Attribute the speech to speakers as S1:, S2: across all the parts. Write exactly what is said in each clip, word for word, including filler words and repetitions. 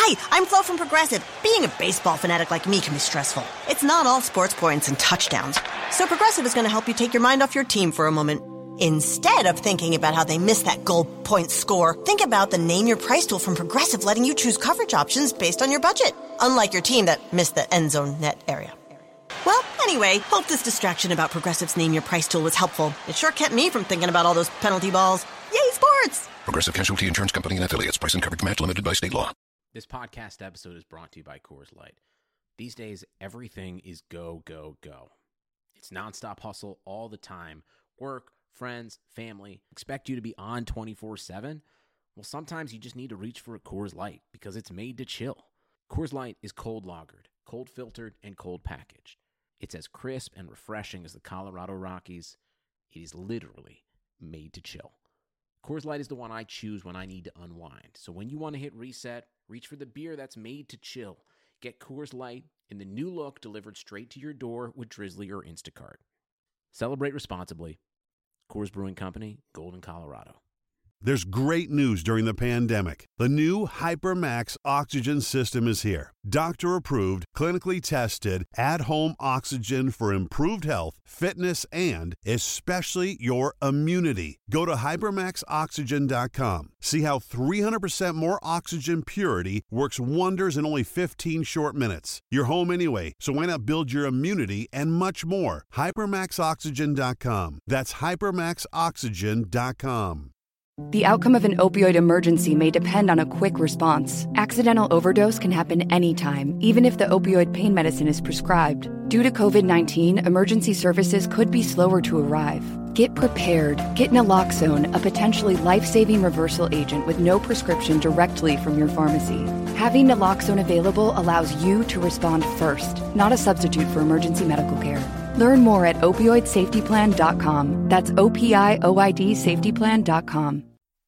S1: Hi, I'm Flo from Progressive. Being a baseball fanatic like me can be stressful. It's not all sports points and touchdowns. So Progressive is going to help you take your mind off your team for a moment. Instead of thinking about how they missed that goal point score, think about the Name Your Price tool from Progressive, letting you choose coverage options based on your budget. Unlike your team that missed the end zone net area. Well, anyway, hope this distraction about Progressive's Name Your Price tool was helpful. It sure kept me from thinking about all those penalty balls. Yay, sports!
S2: Progressive Casualty Insurance Company and Affiliates. Price and coverage match limited by state law.
S3: This podcast episode is brought to you by Coors Light. These days, everything is go, go, go. It's nonstop hustle all the time. Work, friends, family, expect you to be on twenty-four seven? Well, sometimes you just need to reach for a Coors Light because it's made to chill. Coors Light is cold lagered, cold filtered, and cold packaged. It's as crisp and refreshing as the Colorado Rockies. It is literally made to chill. Coors Light is the one I choose when I need to unwind. So when you want to hit reset, reach for the beer that's made to chill. Get Coors Light in the new look delivered straight to your door with Drizzly or Instacart. Celebrate responsibly. Coors Brewing Company, Golden, Colorado.
S4: There's great news during the pandemic. The new HyperMax oxygen system is here. Doctor-approved, clinically tested, at-home oxygen for improved health, fitness, and especially your immunity. Go to hypermax oxygen dot com. See how three hundred percent more oxygen purity works wonders in only fifteen short minutes. You're home anyway, so why not build your immunity and much more? hypermax oxygen dot com. That's hypermax oxygen dot com.
S5: The outcome of an opioid emergency may depend on a quick response. Accidental overdose can happen anytime, even if the opioid pain medicine is prescribed. Due to covid nineteen, emergency services could be slower to arrive. Get prepared. Get naloxone, a potentially life-saving reversal agent with no prescription directly from your pharmacy. Having naloxone available allows you to respond first, not a substitute for emergency medical care. Learn more at opioid safety plan dot com. That's O P I O I D safety plan dot com.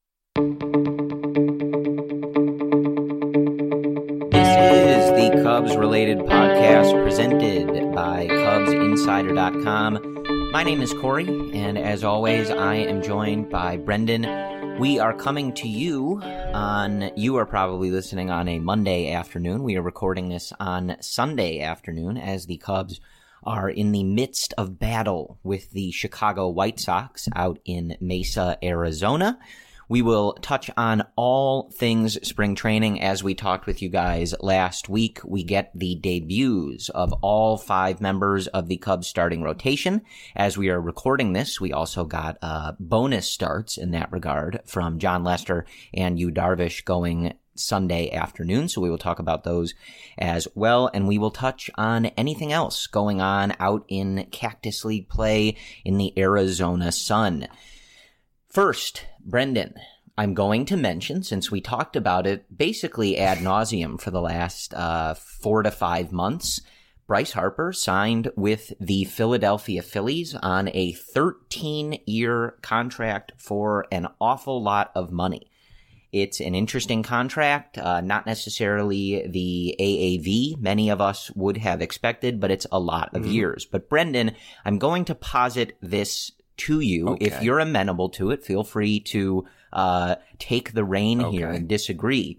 S6: This is the Cubs-related podcast presented by Cubs Insider dot com. My name is Corey, and as always, I am joined by Brendan. We are coming to you on, you are probably listening on a Monday afternoon. We are recording this on Sunday afternoon as the Cubs are in the midst of battle with the Chicago White Sox out in Mesa, Arizona. We will touch on all things spring training. As we talked with you guys last week, we get the debuts of all five members of the Cubs starting rotation. As we are recording this, we also got uh, bonus starts in that regard from John Lester and Yu Darvish going Sunday afternoon, so we will talk about those as well, and we will touch on anything else going on out in Cactus League play in the Arizona sun. First, Brendan, I'm going to mention, since we talked about it basically ad nauseum for the last uh, four to five months, Bryce Harper signed with the Philadelphia Phillies on a thirteen-year contract for an awful lot of money. It's an interesting contract, uh, not necessarily the A A V many of us would have expected, but it's a lot of mm-hmm. years. But Brendan, I'm going to posit this to you. Okay. If you're amenable to it, feel free to uh, take the rein okay. here and disagree.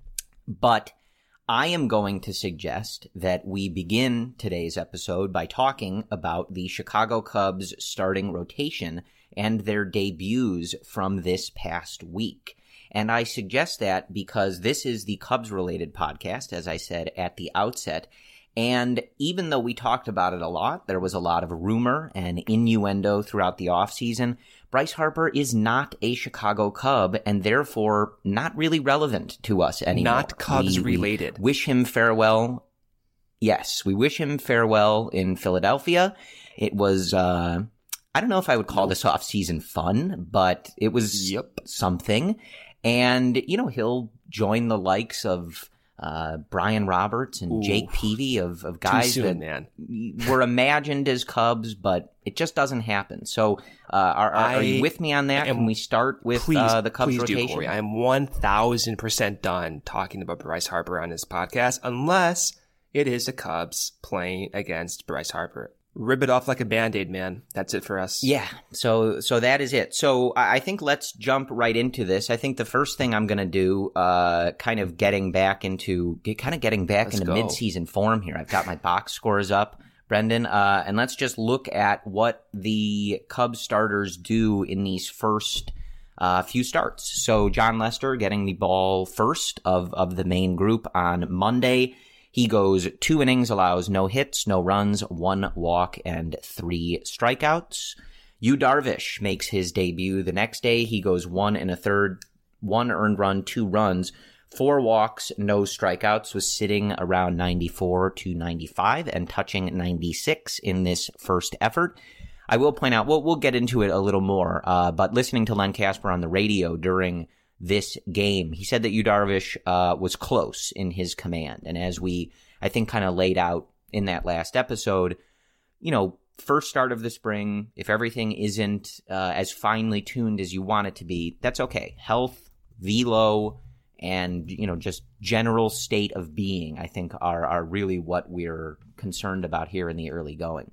S6: But I am going to suggest that we begin today's episode by talking about the Chicago Cubs starting rotation and their debuts from this past week. And I suggest that because this is the Cubs-related podcast, as I said at the outset. And even though we talked about it a lot, there was a lot of rumor and innuendo throughout the offseason, Bryce Harper is not a Chicago Cub and therefore not really relevant to us anymore.
S7: Not Cubs-related.
S6: We, we wish him farewell. Yes, we wish him farewell in Philadelphia. It was, uh, I don't know if I would call this offseason fun, but it was yep. something. And, you know, he'll join the likes of uh, Brian Roberts and Ooh, Jake Peavy of, of guys
S7: soon,
S6: that
S7: man.
S6: were imagined as Cubs, but it just doesn't happen. So uh, are, are, are you with me on that? Am, Can we start with
S7: please,
S6: uh, the Cubs
S7: please
S6: rotation?
S7: Do, Corey. I am one thousand percent done talking about Bryce Harper on this podcast, unless it is the Cubs playing against Bryce Harper. Rip it off like a Band-Aid, man. That's it for us.
S6: Yeah, so so that is it. So I think let's jump right into this. I think the first thing I'm going to do, uh, kind of getting back into, get, kind of getting back let's into go. mid-season form here. I've got my box scores up, Brendan, uh, and let's just look at what the Cubs starters do in these first uh, few starts. So Jon Lester getting the ball first of, of the main group on Monday. He goes two innings, allows no hits, no runs, one walk, and three strikeouts. Yu Darvish makes his debut the next day. He goes one and a third, one earned run, two runs, four walks, no strikeouts, was sitting around ninety-four to ninety-five and touching ninety-six in this first effort. I will point out, we'll, we'll get into it a little more, uh, but listening to Len Kasper on the radio during this game, he said that Yu Darvish uh, was close in his command. And as we, I think, kind of laid out in that last episode, you know, first start of the spring, if everything isn't uh, as finely tuned as you want it to be, that's okay. Health, velo, and, you know, just general state of being, I think, are, are really what we're concerned about here in the early going.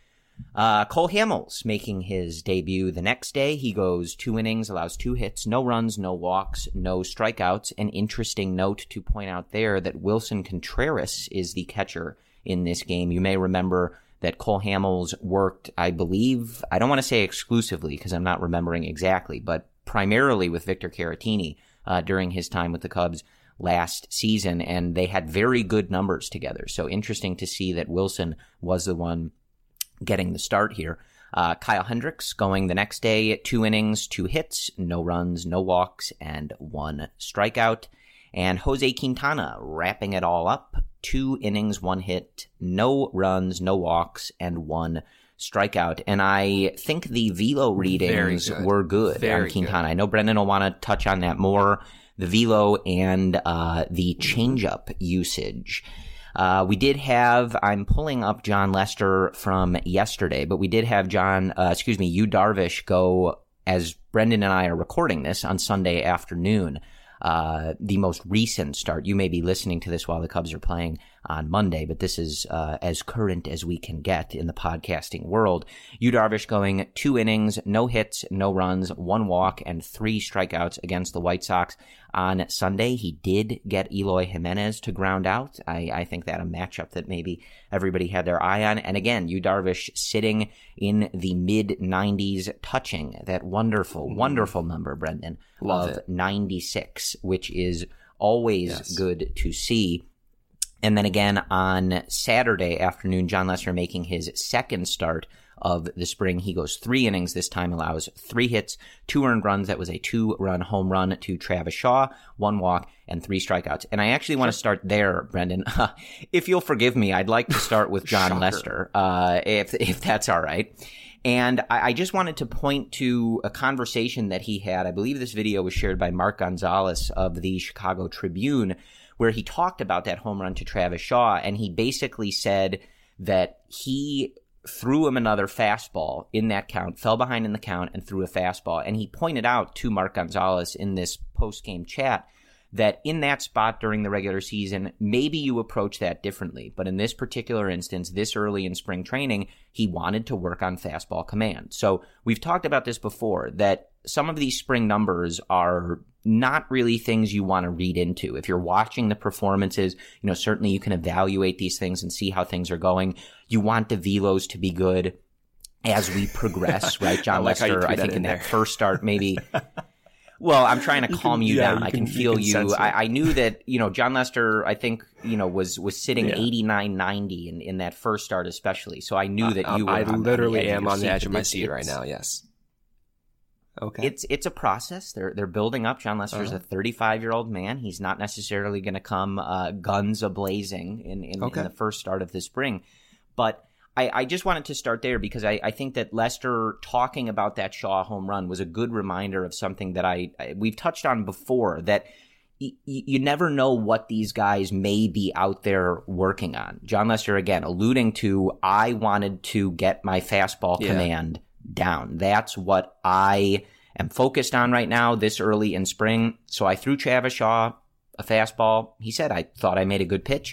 S6: Uh, Cole Hamels making his debut the next day. He goes two innings, allows two hits, no runs, no walks, no strikeouts. An interesting note to point out there that Wilson Contreras is the catcher in this game. You may remember that Cole Hamels worked, I believe, I don't want to say exclusively because I'm not remembering exactly, but primarily with Victor Caratini uh, during his time with the Cubs last season, and they had very good numbers together. So interesting to see that Wilson was the one getting the start here. Uh, Kyle Hendricks going the next day, two innings, two hits, no runs, no walks, and one strikeout. And Jose Quintana wrapping it all up, two innings, one hit, no runs, no walks, and one strikeout. And I think the velo readings good. were good Very on Quintana. Good. I know Brendan will want to touch on that more, the velo and uh, the changeup usage. Uh, we did have, I'm pulling up Jon Lester from yesterday, but we did have John, uh, excuse me, Yu Darvish go, as Brendan and I are recording this on Sunday afternoon, uh, the most recent start. You may be listening to this while the Cubs are playing on Monday, but this is uh, as current as we can get in the podcasting world. Yu Darvish going two innings, no hits, no runs, one walk, and three strikeouts against the White Sox on Sunday. He did get Eloy Jimenez to ground out. I, I think that a matchup that maybe everybody had their eye on. And again, Yu Darvish sitting in the mid nineties, touching that wonderful, mm. wonderful number, Brendan, Love of it. ninety-six, which is always yes. good to see. And then again on Saturday afternoon, Jon Lester making his second start of the spring. He goes three innings this time, allows three hits, two earned runs. That was a two-run home run to Travis Shaw, one walk, and three strikeouts. And I actually want to start there, Brendan. If you'll forgive me, I'd like to start with Jon Lester, uh, if if that's all right. And I, I just wanted to point to a conversation that he had. I believe this video was shared by Mark Gonzalez of the Chicago Tribune, where he talked about that home run to Travis Shaw, and he basically said that he threw him another fastball in that count, fell behind in the count, and threw a fastball. And he pointed out to Mark Gonzalez in this post-game chat that in that spot during the regular season, maybe you approach that differently. But in this particular instance, this early in spring training, he wanted to work on fastball command. So we've talked about this before, that some of these spring numbers are not really things you want to read into. If you're watching the performances, you know, certainly you can evaluate these things and see how things are going. You want the velos to be good as we progress, right? Jon I like Lester, I think in, in that first start, maybe. Well, I'm trying to you calm can, you yeah, down. You I can, can feel you. Can you. I, I knew that, you know, Jon Lester, I think, you know, was, was sitting yeah. eighty-nine ninety in, in that first start especially. So I knew that uh, you were
S7: I
S6: on
S7: literally
S6: the
S7: am on the edge
S6: seat,
S7: of my seat right now, yes. Okay.
S6: It's it's a process. They're they're building up. Jon Lester's uh-huh. a thirty-five-year-old man. He's not necessarily going to come uh, guns a-blazing in, in, okay. in the first start of the spring. But I, I just wanted to start there because I, I think that Lester talking about that Shaw home run was a good reminder of something that I, I we've touched on before, that y- you never know what these guys may be out there working on. Jon Lester, again, alluding to, I wanted to get my fastball yeah. command down. That's what I am focused on right now this early in spring. So I threw Travis Shaw a fastball. He said, I thought I made a good pitch.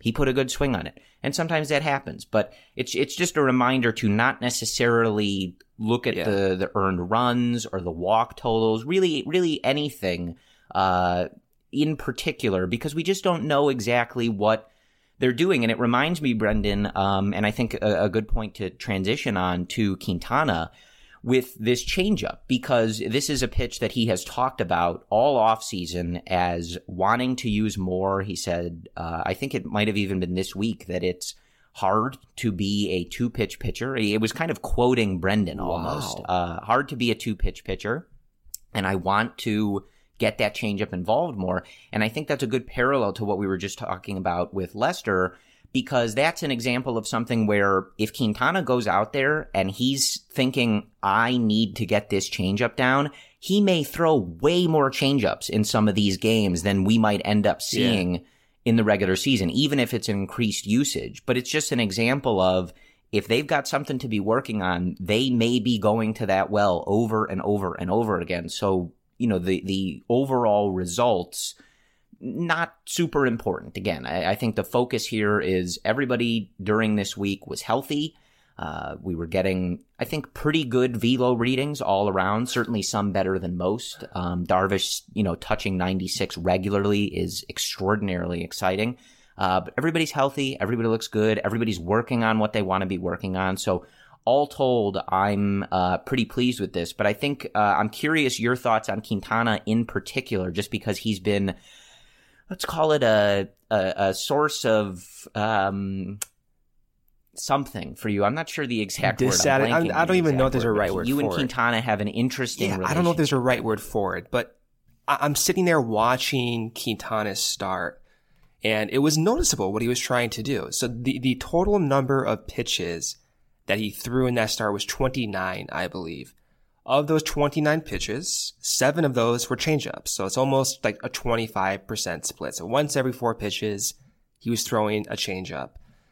S6: he put a good swing on it. And sometimes that happens, but it's it's just a reminder to not necessarily look at yeah. the, the earned runs or the walk totals, really, really anything uh, in particular, because we just don't know exactly what they're doing. And it reminds me, Brendan, um, and I think a, a good point to transition on to Quintana with this changeup, because this is a pitch that he has talked about all offseason as wanting to use more. He said, uh, I think it might have even been this week, that it's hard to be a two-pitch pitcher. It was kind of quoting Brendan almost. Wow. Uh, hard to be a two-pitch pitcher, and I want to get that changeup involved more. And I think that's a good parallel to what we were just talking about with Lester, because that's an example of something where if Quintana goes out there and he's thinking, I need to get this changeup down, he may throw way more changeups in some of these games than we might end up seeing yeah. in the regular season, even if it's an increased usage. But it's just an example of, if they've got something to be working on, they may be going to that well over and over and over again. So, you know, the, the overall results, not super important. Again, I, I think the focus here is everybody during this week was healthy. Uh, we were getting, I think, pretty good velo readings all around, certainly some better than most. Um, Darvish, you know, touching ninety-six regularly is extraordinarily exciting. Uh, but everybody's healthy. Everybody looks good. Everybody's working on what they want to be working on. So all told, I'm uh, pretty pleased with this. But I think uh, I'm curious your thoughts on Quintana in particular, just because he's been, let's call it a a, a source of um, something for you. I'm not sure the exact word. I'm
S7: I, I don't even know if there's a right word for it.
S6: You and Quintana have an interesting
S7: yeah,
S6: relationship.
S7: I don't know if there's a right word for it, but I, I'm sitting there watching Quintana's start, and it was noticeable what he was trying to do. So the, the total number of pitches that he threw in that start was twenty-nine, I believe. Of those twenty-nine pitches, seven of those were changeups. So it's almost like a twenty-five percent split. So once every four pitches, he was throwing a changeup.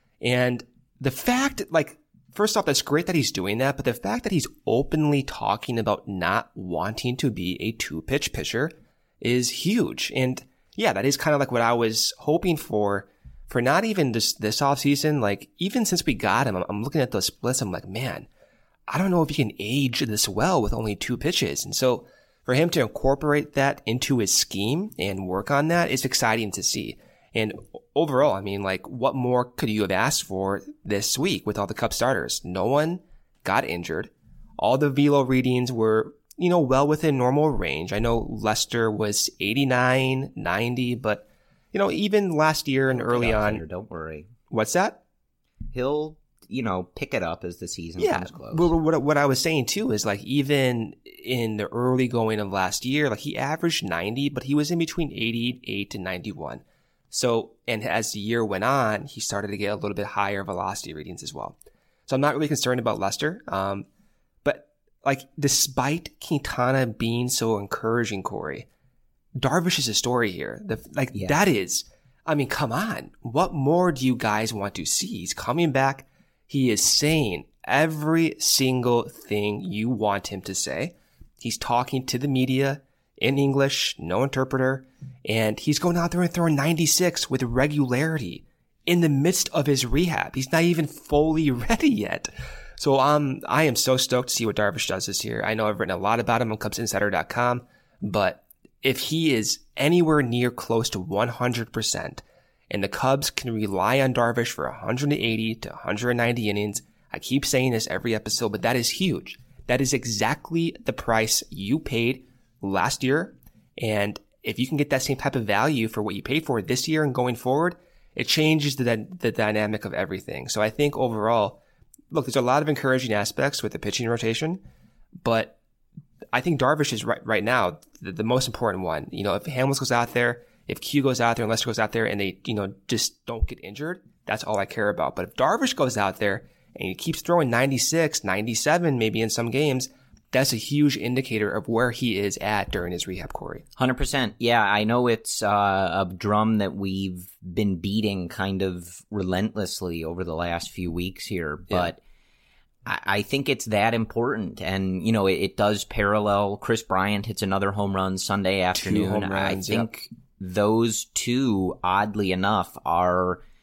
S7: And the fact, like, first off, that's great that he's doing that, but the fact that he's openly talking about not wanting to be a two-pitch pitcher is huge. And yeah, that is kind of like what I was hoping for, for not even this, this offseason. Like, even since we got him, I'm, I'm looking at those splits, I'm like, man, I don't know if he can age this well with only two pitches. And so for him to incorporate that into his scheme and work on that is exciting to see. And overall, I mean, like, what more could you have asked for this week with all the Cub starters? No one got injured. All the velo readings were, you know, well within normal range. I know Lester was eighty-nine, ninety, but, you know, even last year and early on.
S6: Later, don't worry.
S7: What's that?
S6: He'll, you know, pick it up as the season
S7: yeah,
S6: comes close.
S7: But what, what I was saying too is, like, even in the early going of last year, like, he averaged ninety, but he was in between eighty-eight and ninety-one. So, and as the year went on, he started to get a little bit higher velocity readings as well. So I'm not really concerned about Lester. Um, but like, despite Quintana being so encouraging, Corey, Darvish is a story here. The, like, yeah. that is, I mean, come on. What more do you guys want to see? He's coming back. He is saying every single thing you want him to say. He's talking to the media in English, no interpreter, and he's going out there and throwing ninety-six with regularity in the midst of his rehab. He's not even fully ready yet. So um, I am so stoked to see what Darvish does this year. I know I've written a lot about him on Cubs Insider dot com, but if he is anywhere near close to one hundred percent and the Cubs can rely on Darvish for one hundred eighty to one hundred ninety innings, I keep saying this every episode, but that is huge. That is exactly the price you paid last year. And if you can get that same type of value for what you paid for this year and going forward, it changes the, the dynamic of everything. So I think overall, look, there's a lot of encouraging aspects with the pitching rotation, but I think Darvish is right, right now the, the most important one. You know, if Hamels goes out there, if Q goes out there and Lester goes out there and they, you know, just don't get injured, that's all I care about. But if Darvish goes out there and he keeps throwing ninety-six, ninety-seven, maybe in some games, that's a huge indicator of where he is at during his rehab, Corey.
S6: one hundred percent. Yeah, I know it's uh, a drum that we've been beating kind of relentlessly over the last few weeks here, but yeah. I, I think it's that important. And, you know, it, it does parallel. Chris Bryant hits another home run Sunday afternoon.
S7: Two home runs,
S6: I think
S7: yep.
S6: those two, oddly enough, are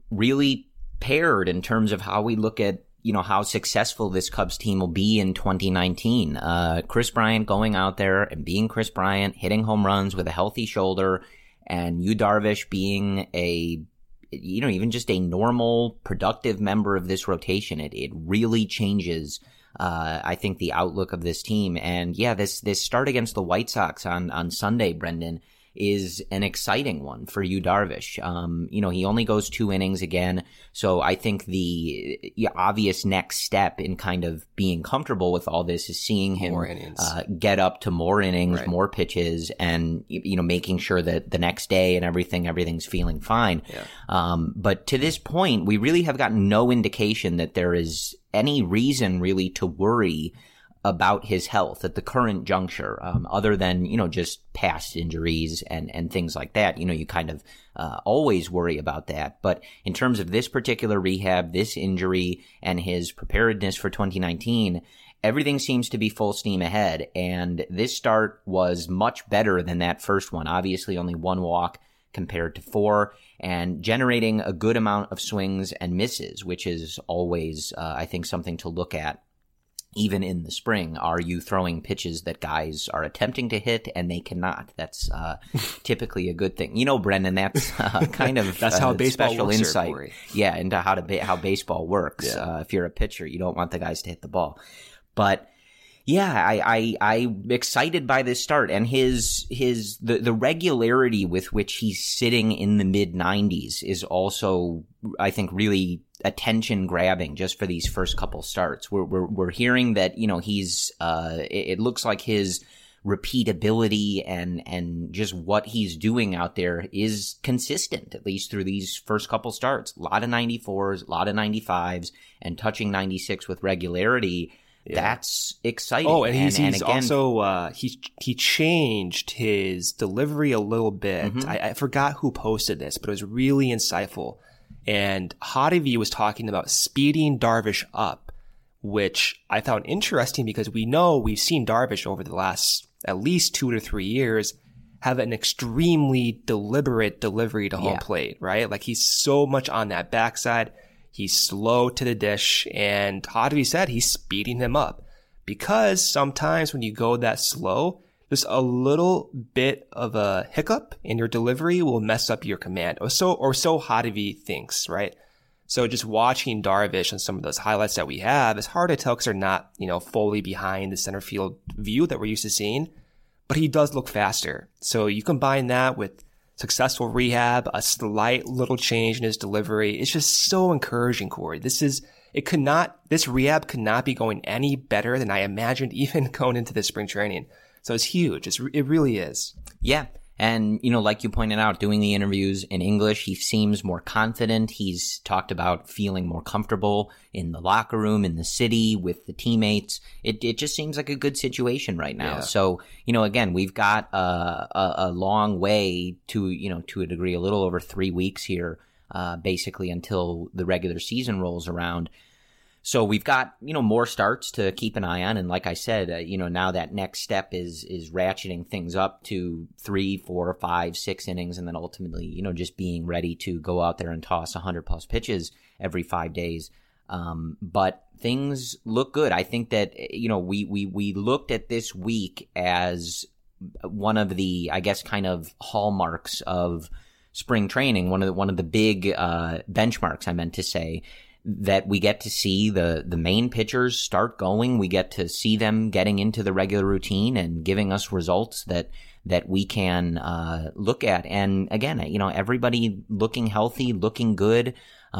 S6: really paired in terms of how we look at, you know, how successful this Cubs team will be in twenty nineteen. Uh, Kris Bryant going out there and being Kris Bryant, hitting home runs with a healthy shoulder, and Yu Darvish being a, you know, even just a normal, productive member of this rotation. It it really changes, uh, I think, the outlook of this team. And yeah, this this start against the White Sox on on Sunday, Brendan, is an exciting one for Yu Darvish. Um, you know, he only goes two innings again, so I think the yeah, obvious next step in kind of being comfortable with all this is seeing him uh, get up to more innings, right. more pitches, and, you know, making sure that the next day and everything, everything's feeling fine.
S7: Yeah.
S6: Um, but to this point, we really have gotten no indication that there is any reason really to worry about his health at the current juncture, um, other than, you know, just past injuries and, and things like that. You know, you kind of uh, always worry about that. But in terms of this particular rehab, this injury, and his preparedness for twenty nineteen, everything seems to be full steam ahead. And this start was much better than that first one. Obviously, only one walk compared to four, and generating a good amount of swings and misses, which is always, uh, I think, something to look at. Even in the spring, are you throwing pitches that guys are attempting to hit and they cannot? That's uh, typically a good thing. You know, Brendan, that's uh, kind of
S7: that's how
S6: uh,
S7: baseball
S6: special
S7: works
S6: insight.
S7: There,
S6: yeah, into how to ba- how baseball works.
S7: Yeah.
S6: Uh, if you're a pitcher, you don't want the guys to hit the ball. But yeah, I, I I'm excited by this start, and his his the the regularity with which he's sitting in the mid nineties is also, I think, really attention grabbing just for these first couple starts. We're we're we're hearing that, you know, he's uh it, it looks like his repeatability and and just what he's doing out there is consistent, at least through these first couple starts. A lot of ninety-fours, a lot of ninety-fives, and touching ninety-six with regularity. Yeah. That's exciting.
S7: Oh, and he's, and, he's and again,
S6: also
S7: uh, he he changed his delivery a little bit. Mm-hmm. I, I forgot who posted this, but it was really insightful. And Hottovy was talking about speeding Darvish up, which I found interesting because we know we've seen Darvish over the last at least two to three years have an extremely deliberate delivery to home
S6: yeah.
S7: plate, right? Like he's so much on that backside. He's slow to the dish, and Hottovy said he's speeding him up because sometimes when you go that slow, just a little bit of a hiccup in your delivery will mess up your command, or so or so Hottovy thinks, right? So just watching Darvish and some of those highlights that we have, it's hard to tell because they're not, you know, fully behind the center field view that we're used to seeing, but he does look faster. So you combine that with successful rehab, a slight little change in his delivery. It's just so encouraging, Corey. This is, it could not, this rehab could not be going any better than I imagined even going into this spring training. So it's huge. It's, it really is.
S6: Yeah. And, you know, like you pointed out, doing the interviews in English, he seems more confident. He's talked about feeling more comfortable in the locker room, in the city, with the teammates. It it just seems like a good situation right now.
S7: Yeah.
S6: So, you know, again, we've got uh, a, a long way to, you know, to a degree, a little over three weeks here, uh, basically until the regular season rolls around. So we've got, you know, more starts to keep an eye on. And like I said, uh, you know, now that next step is is ratcheting things up to three, four, five, six innings. And then ultimately, you know, just being ready to go out there and toss one hundred plus pitches every five days. Um, but things look good. I think that, you know, we, we, we looked at this week as one of the, I guess, kind of hallmarks of spring training. One of the, one of the big uh, benchmarks, I meant to say, that we get to see the, the main pitchers start going. We get to see them getting into the regular routine and giving us results that, that we can, uh, look at. And again, you know, everybody looking healthy, looking good.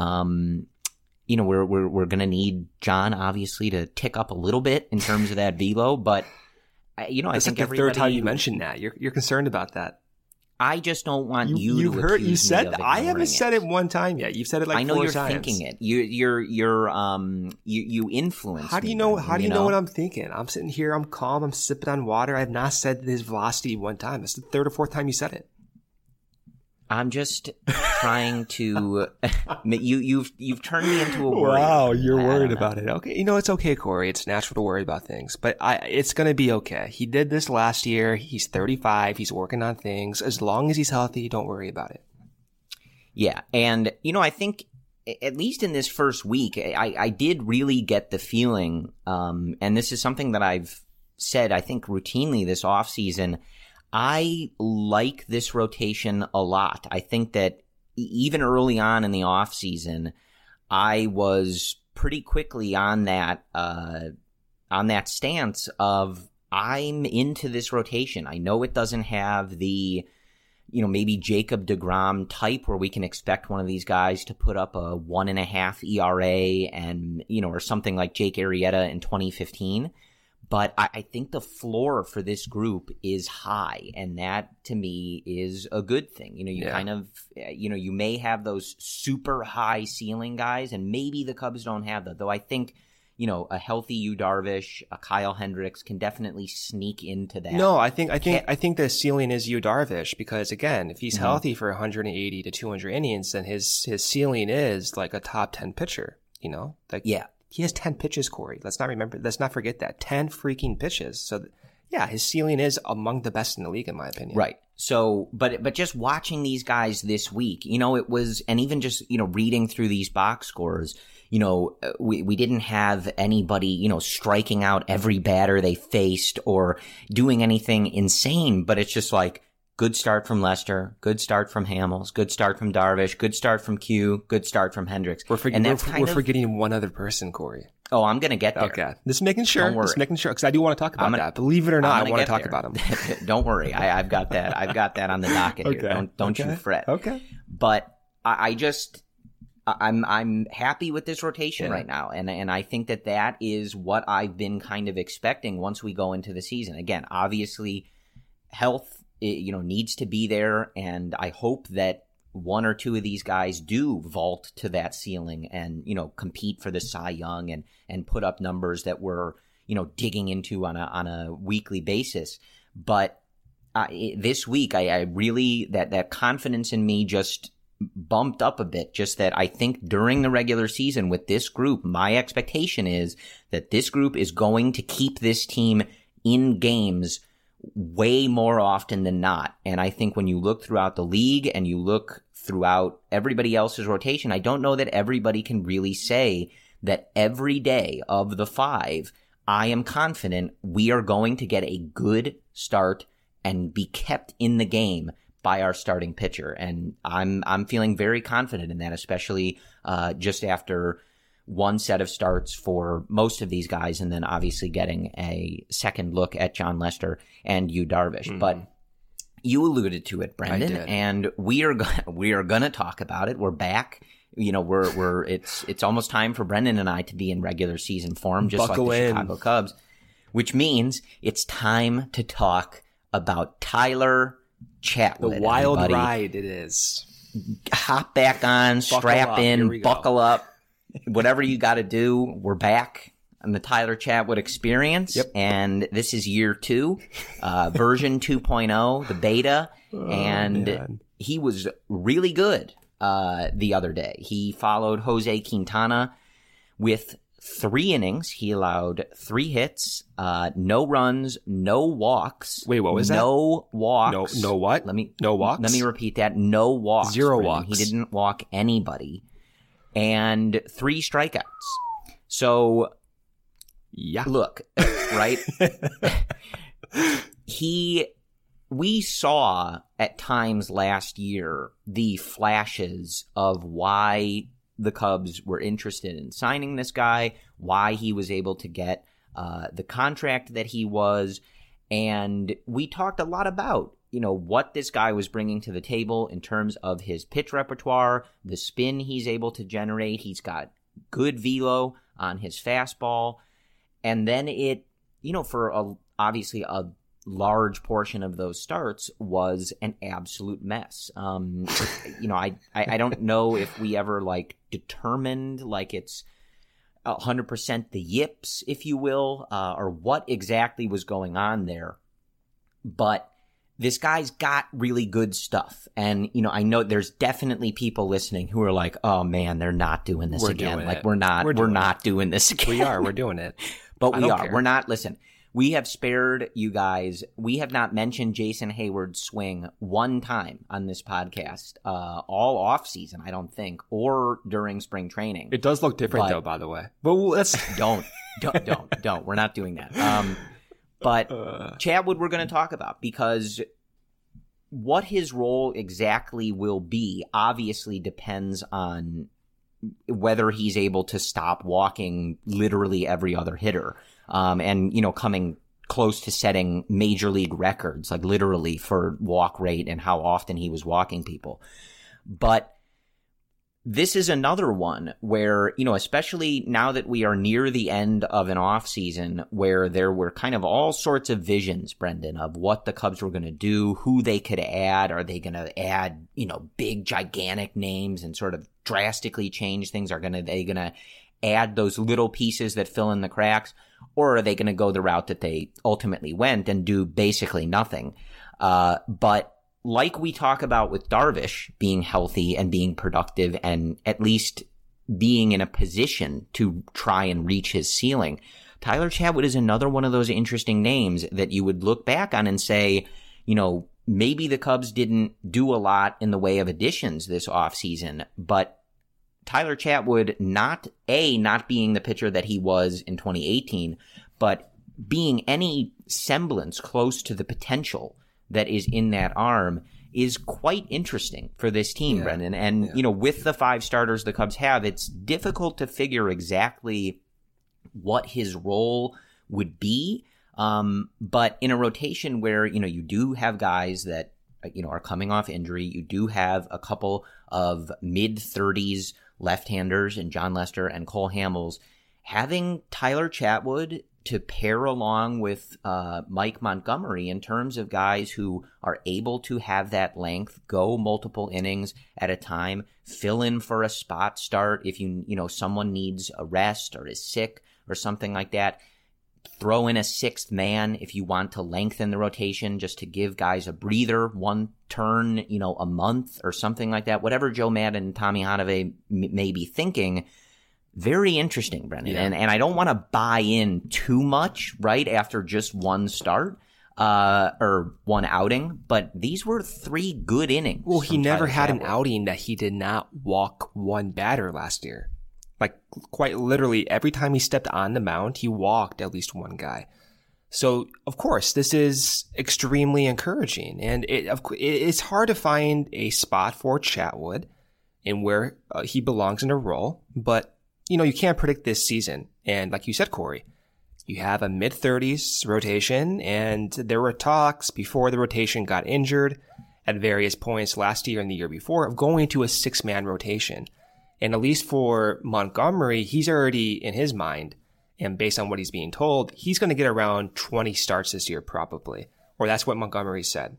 S6: Um, you know, we're, we're, we're going to need John obviously to tick up a little bit in terms of that velo, but you know,
S7: That's
S6: I think
S7: like the
S6: everybody,
S7: third time you mentioned that. You're, you're concerned about that.
S6: I just don't want you,
S7: you
S6: to
S7: You've heard,
S6: accuse
S7: you said,
S6: me of
S7: I haven't
S6: ignoring
S7: said
S6: it.
S7: it one time yet. You've said it like
S6: I know
S7: four
S6: you're
S7: times.
S6: thinking it. You, you're, you're, um, you, you influence.
S7: How do you
S6: me,
S7: know,
S6: Brendan,
S7: how do you
S6: you
S7: know
S6: know
S7: what I'm thinking? I'm sitting here, I'm calm, I'm sipping on water. I have not said his velocity one time. It's the third or fourth time you said it.
S6: I'm just trying to, you, you've, you've turned me into a worrier.
S7: Wow, you're
S6: I- I
S7: worried
S6: don't know.
S7: about it. Okay. You know, it's okay, Corey. It's natural to worry about things, but I, it's going to be okay. He did this last year. He's thirty-five. He's working on things. As long as he's healthy, don't worry about it.
S6: Yeah. And, you know, I think at least in this first week, I, I did really get the feeling, um, and this is something that I've said, I think, routinely this offseason, I like this rotation a lot. I think that even early on in the offseason, I was pretty quickly on that uh, on that stance of I'm into this rotation. I know it doesn't have the, you know, maybe Jacob deGrom type where we can expect one of these guys to put up a one and a half E R A and, you know, or something like Jake Arrieta in twenty fifteen. But I, I think the floor for this group is high, and that to me is a good thing. You know, you yeah. kind of, you know, you may have those super high ceiling guys, and maybe the Cubs don't have that. Though I think, you know, a healthy Yu Darvish, a Kyle Hendricks can definitely sneak into that.
S7: No, I think I think I think the ceiling is Yu Darvish because again, if he's mm-hmm. healthy for one hundred eighty to two hundred innings, then his his ceiling is like a top ten pitcher. You know, like
S6: yeah.
S7: He has ten pitches, Corey. Let's not remember. Let's not forget that. ten freaking pitches. So, yeah, his ceiling is among the best in the league, in my opinion.
S6: Right. So, but but just watching these guys this week, you know, it was, and even just, you know, reading through these box scores, you know, we, we didn't have anybody, you know, striking out every batter they faced or doing anything insane, but it's just like, good start from Lester, good start from Hamels, good start from Darvish, good start from Q, good start from Hendricks.
S7: We're, for- we're, we're of, forgetting one other person, Corey.
S6: Oh, I'm going to get there.
S7: Okay. Just making sure. Don't worry. Just making sure, because I do want to talk about gonna, that. Believe it or not, I want to talk there. about him.
S6: Don't worry. I, I've got that. I've got that on the docket
S7: okay.
S6: here. Don't, don't
S7: okay.
S6: you fret.
S7: Okay.
S6: But I, I just, I'm I'm happy with this rotation yeah. right now. And, and I think that that is what I've been kind of expecting once we go into the season. Again, obviously, health, it, you know, needs to be there, and I hope that one or two of these guys do vault to that ceiling and, you know, compete for the Cy Young and and put up numbers that we're, you know, digging into on a on a weekly basis. But uh, it, this week, I, I really that that confidence in me just bumped up a bit. Just that I think during the regular season with this group, my expectation is that this group is going to keep this team in games way more often than not. And I think when you look throughout the league and you look throughout everybody else's rotation, I don't know that everybody can really say that every day of the five, I am confident we are going to get a good start and be kept in the game by our starting pitcher. And I'm I'm feeling very confident in that, especially uh, just after one set of starts for most of these guys, and then obviously getting a second look at Jon Lester and Yu Darvish. Mm-hmm. But you alluded to it, Brendan, and we are go- we are going to talk about it. We're back. You know, we're we're it's it's almost time for Brendan and I to be in regular season form, just
S7: Buckle
S6: like the
S7: in.
S6: Chicago Cubs, which means it's time to talk about Tyler Chatwood.
S7: The wild
S6: everybody.
S7: ride it is.
S6: Hop back on,
S7: buckle
S6: strap
S7: up.
S6: in, buckle up. Whatever you got to do, we're back on the Tyler Chatwood experience.
S7: Yep.
S6: And this is year two, uh, version two point oh, the beta.
S7: Oh,
S6: and
S7: man.
S6: He was really good uh, the other day. He followed Jose Quintana with three innings. He allowed three hits, uh, no runs, no walks.
S7: Wait, what was
S6: no
S7: that?
S6: No walks.
S7: No, no what?
S6: Let me,
S7: no walks?
S6: Let me repeat that. No walks.
S7: Zero
S6: Brendan.
S7: walks.
S6: He didn't walk anybody. And three strikeouts. So,
S7: yeah.
S6: Look, right? he, we saw at times last year the flashes of why the Cubs were interested in signing this guy, why he was able to get uh, the contract that he was. And we talked a lot about, you know, what this guy was bringing to the table in terms of his pitch repertoire, the spin he's able to generate. He's got good velo on his fastball. And then it, you know, for a, obviously a large portion of those starts was an absolute mess. Um, you know, I, I, I don't know if we ever like determined like it's one hundred percent the yips, if you will, uh, or what exactly was going on there. But this guy's got really good stuff. And, you know, I know there's definitely people listening who are like, oh man, they're not doing this
S7: we're
S6: again.
S7: Doing
S6: like
S7: it.
S6: we're not, we're,
S7: we're
S6: not
S7: it.
S6: doing this again.
S7: We are, we're doing it.
S6: But
S7: I
S6: we are.
S7: Care.
S6: We're not, listen, We have spared you guys. We have not mentioned Jason Hayward's swing one time on this podcast, uh, all off season, I don't think, or during spring training.
S7: It does look different,
S6: but,
S7: though, by the way. But let's
S6: don't, don't, don't, don't. We're not doing that. Um, but
S7: uh,
S6: Chatwood, we're going to talk about because what his role exactly will be obviously depends on whether he's able to stop walking literally every other hitter. Um, and, you know, coming close to setting major league records, like literally for walk rate and how often he was walking people. But this is another one where, you know, especially now that we are near the end of an off season where there were kind of all sorts of visions, Brendan, of what the Cubs were going to do, who they could add. Are they going to add, you know, big, gigantic names and sort of drastically change things? Are going to, they going to add those little pieces that fill in the cracks? Or are they going to go the route that they ultimately went and do basically nothing? Uh, but like we talk about with Darvish being healthy and being productive and at least being in a position to try and reach his ceiling, Tyler Chatwood is another one of those interesting names that you would look back on and say, you know, maybe the Cubs didn't do a lot in the way of additions this offseason, but Tyler Chatwood, not A, not being the pitcher that he was in twenty eighteen, but being any semblance close to the potential that is in that arm is quite interesting for this team, yeah. Brendan. And, yeah. you know, with the five starters the Cubs have, it's difficult to figure exactly what his role would be. Um, but in a rotation where, you know, you do have guys that, you know, are coming off injury, you do have a couple of mid-thirties left-handers in John Lester and Cole Hamels, having Tyler Chatwood to pair along with uh, Mike Montgomery in terms of guys who are able to have that length, go multiple innings at a time, fill in for a spot start if you you know someone needs a rest or is sick or something like that. Throw in a sixth man if you want to lengthen the rotation just to give guys a breather, one turn, you know, a month or something like that. Whatever Joe Maddon and Tommy Hanave m- may be thinking. Very interesting, Brendan. Yeah. And and I don't want to buy in too much right after just one start uh, or one outing, but these were three good innings.
S7: Well, he never
S6: Tyler
S7: had
S6: Chatwood.
S7: An outing that he did not walk one batter last year. Like, quite literally, every time he stepped on the mound, he walked at least one guy. So, of course, this is extremely encouraging. And it, of, it's hard to find a spot for Chatwood in where uh, he belongs in a role. But, you know, you can't predict this season. And like you said, Corey, you have a mid-thirties rotation. And there were talks before the rotation got injured at various points last year and the year before of going to a six-man rotation. And at least for Montgomery, he's already in his mind, and based on what he's being told, he's going to get around twenty starts this year probably. Or that's what Montgomery said.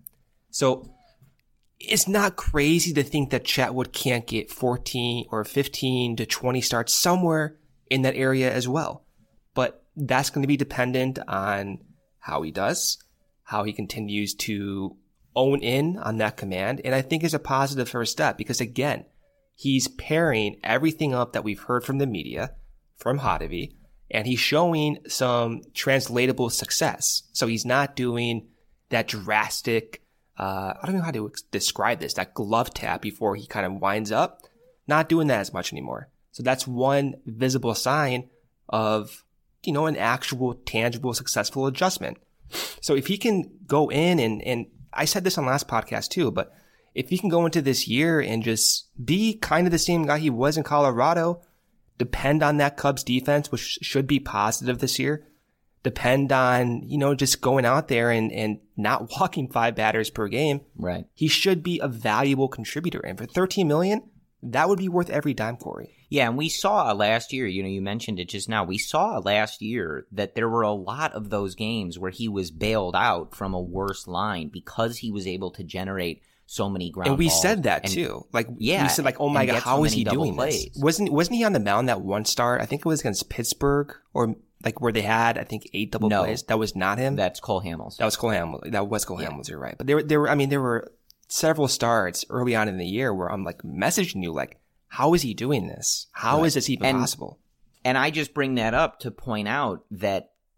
S7: So it's not crazy to think that Chatwood can't get fourteen or fifteen to twenty starts somewhere in that area as well. But that's going to be dependent on how he does, how he continues to own in on that command. And I think it's a positive first step because, again, he's pairing everything up that we've heard from the media, from Hanave, and he's showing some translatable success. So he's not doing that drastic, uh, I don't know how to ex- describe this, that glove tap before he kind of winds up. Not doing that as much anymore. So that's one visible sign of, you know, an actual, tangible, successful adjustment. So if he can go in and, and I said this on last podcast too, but if he can go into this year and just be kind of the same guy he was in Colorado, depend on that Cubs defense, which should be positive this year, depend on, you know, just going out there and, and not walking five batters per game.
S6: Right.
S7: He should be a valuable contributor. And for thirteen million dollars, that would be worth every dime, Corey.
S6: Yeah, and we saw last year, you know, you mentioned it just now, we saw last year that there were a lot of those games where he was bailed out from a worse line because he was able to generate so many ground
S7: balls. And we
S6: balls.
S7: said that
S6: and,
S7: too. Like,
S6: yeah,
S7: we said, like, oh my God, how
S6: so
S7: is he doing
S6: plays.
S7: this? Wasn't, wasn't he on the mound that one start? I think it was against Pittsburgh or like where they had, I think, eight double
S6: no,
S7: plays. That was not him.
S6: That's Cole Hamels.
S7: That was Cole Hamels. That was Cole yeah. Hamels. You're right. But there were, there were, I mean, there were several starts early on in the year where I'm like messaging you, like, how is he doing this? How right. is this even
S6: and,
S7: possible?
S6: And I just bring that up to point out that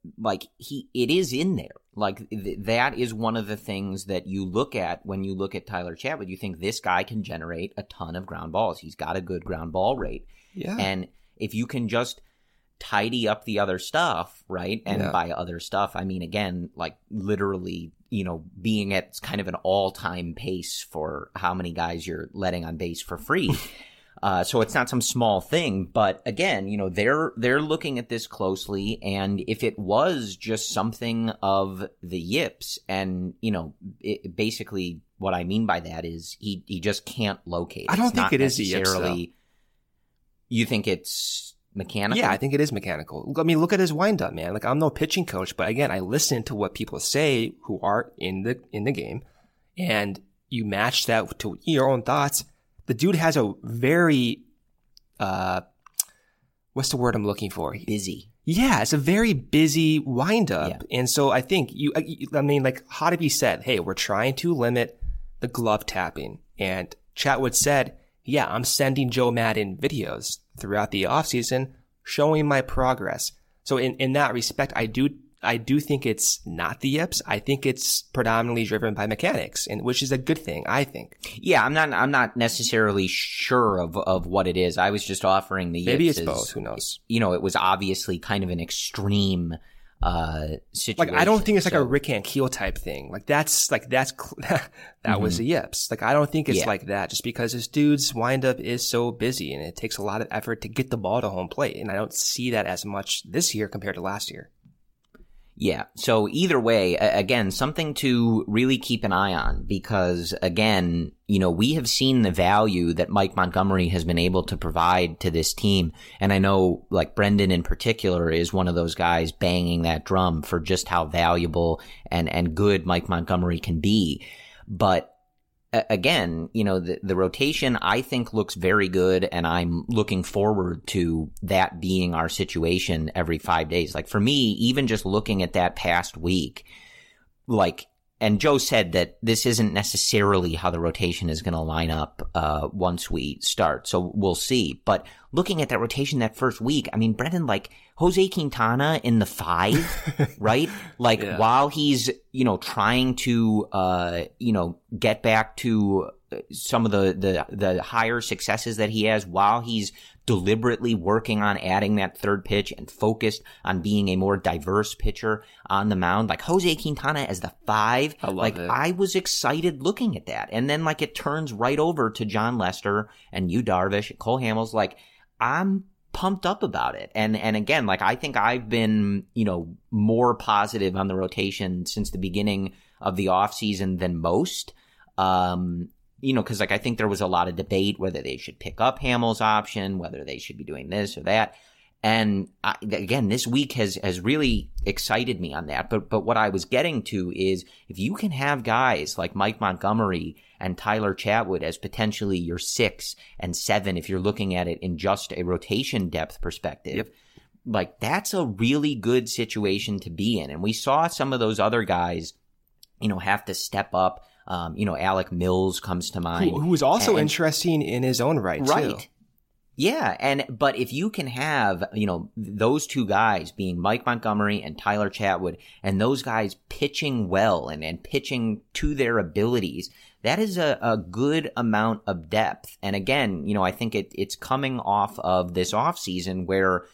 S6: like he, it is in there. Like th- that is one of the things that you look at when you look at Tyler Chatwood. You think this guy can generate a ton of ground balls. He's got a good ground ball rate.
S7: Yeah.
S6: And if you can just tidy up the other stuff, right? And
S7: yeah.
S6: by other stuff, I mean, again, like literally, you know, being at kind of an all-time pace for how many guys you're letting on base for free. Uh, so it's not some small thing, but again, you know, they're they're looking at this closely, and if it was just something of the yips, and you know, it, basically what I mean by that is he he just can't locate.
S7: I don't
S6: it's
S7: think
S6: not
S7: it is the yips, though.
S6: You think it's mechanical?
S7: Yeah, I think it is mechanical. I mean, look at his windup, man. Like, I'm no pitching coach, but again, I listen to what people say who are in the in the game, and you match that to your own thoughts. The dude has a very, uh, what's the word I'm looking for?
S6: Busy.
S7: Yeah, it's a very busy windup.
S6: Yeah.
S7: And so I think you, I mean, like Hottovy said, hey, we're trying to limit the glove tapping. And Chatwood said, yeah, I'm sending Joe Maddon videos throughout the offseason showing my progress. So in, in that respect, I do I do think it's not the yips. I think it's predominantly driven by mechanics, and which is a good thing, I think.
S6: Yeah, I'm not. I'm not necessarily sure of of what it is. I was just offering the yips.
S7: Maybe it's
S6: as,
S7: both. Who knows? You
S6: know, it was obviously kind of an extreme uh situation.
S7: Like, I don't think it's like
S6: so.
S7: a Rick Ankiel type thing. Like that's like that's that
S6: mm-hmm.
S7: was the yips. Like I don't think it's
S6: yeah.
S7: like that. Just because this dude's windup is so busy, and it takes a lot of effort to get the ball to home plate, and I don't see that as much this year compared to last year.
S6: Yeah. So either way, again, something to really keep an eye on because, again, you know, we have seen the value that Mike Montgomery has been able to provide to this team. And I know, like, Brendan in particular is one of those guys banging that drum for just how valuable and, and good Mike Montgomery can be. But again, you know, the, the rotation I think looks very good, and I'm looking forward to that being our situation every five days. Like for me, even just looking at that past week, like, and Joe said that this isn't necessarily how the rotation is going to line up uh once we start, so we'll see. But looking at that rotation that first week, I mean, Brendan, like Jose Quintana in the five, right? Like
S7: yeah.
S6: while he's, you know, trying to, uh, you know, get back to some of the, the, the higher successes that he has, while he's deliberately working on adding that third pitch and focused on being a more diverse pitcher on the mound, like Jose Quintana as the five,
S7: I love
S6: like
S7: it.
S6: I was excited looking at that. And then like it turns right over to John Lester and Yu Darvish and Cole Hamels. Like I'm pumped up about it. And, and again, like I think I've been, you know, more positive on the rotation since the beginning of the offseason than most. Um, You know, because like I think there was a lot of debate whether they should pick up Hamels' option, whether they should be doing this or that. And I, again, this week has has really excited me on that. But but what I was getting to is if you can have guys like Mike Montgomery and Tyler Chatwood as potentially your six and seven, if you're looking at it in just a rotation depth perspective,
S7: yep.
S6: like that's a really good situation to be in. And we saw some of those other guys, you know, have to step up. Um, you know, Alec Mills comes to mind.
S7: Who, who was also
S6: and,
S7: interesting in his own right,
S6: right.
S7: too.
S6: Yeah, and but if you can have, you know, those two guys being Mike Montgomery and Tyler Chatwood, and those guys pitching well and, and pitching to their abilities, that is a, a good amount of depth. And again, you know, I think it, it's coming off of this offseason where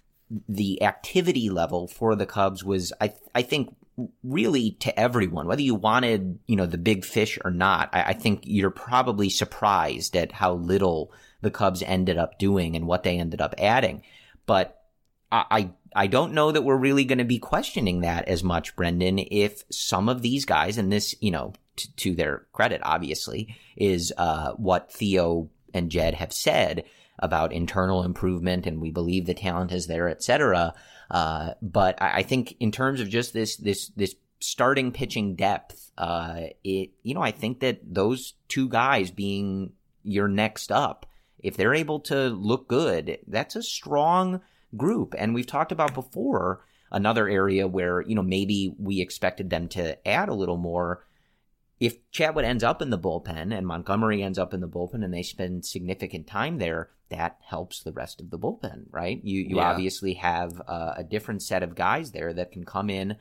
S6: the activity level for the Cubs was, I I think, really to everyone, whether you wanted, you know, the big fish or not. I, I think you're probably surprised at how little the Cubs ended up doing and what they ended up adding. But I, I, I don't know that we're really going to be questioning that as much, Brendan, if some of these guys, and this, you know, t- to their credit, obviously, is uh, what Theo and Jed have said about internal improvement, and we believe the talent is there, et cetera. Uh, but I, I think in terms of just this, this, this starting pitching depth, uh, it, you know, I think that those two guys being your next up, if they're able to look good, that's a strong group. And we've talked about before another area where, you know, maybe we expected them to add a little more. if Chatwood ends up in the bullpen and Montgomery ends up in the bullpen and they spend significant time there, that helps the rest of the bullpen, right? You you yeah. obviously have a, a different set of guys there that can come in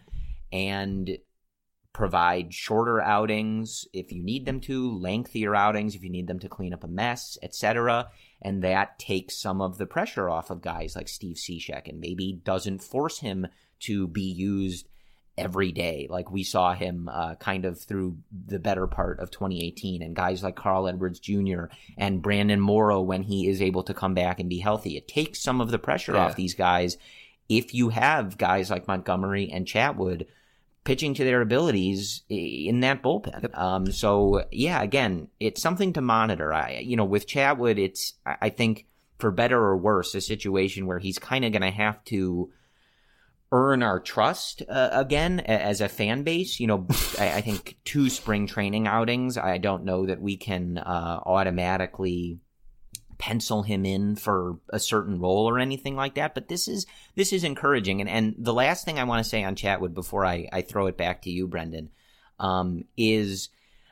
S6: and provide shorter outings if you need them to, lengthier outings if you need them to clean up a mess, et cetera. And that takes some of the pressure off of guys like Steve Cishek and maybe doesn't force him to be used every day like we saw him uh, kind of through the better part of twenty eighteen, and guys like Carl Edwards Junior and Brandon Morrow when he is able to come back and be healthy. It takes some of the pressure yeah. off these guys if you have guys like Montgomery and Chatwood pitching to their abilities in that bullpen. Yep. Um, so yeah, again, it's something to monitor. I, you know, with Chatwood, it's, I think for better or worse, a situation where he's kind of going to have to earn our trust uh, again as a fan base. You know, I, I think two spring training outings, I don't know that we can uh, automatically pencil him in for a certain role or anything like that. But this is this is encouraging. And and the last thing I want to say on Chatwood before I, I throw it back to you, Brendan, um, is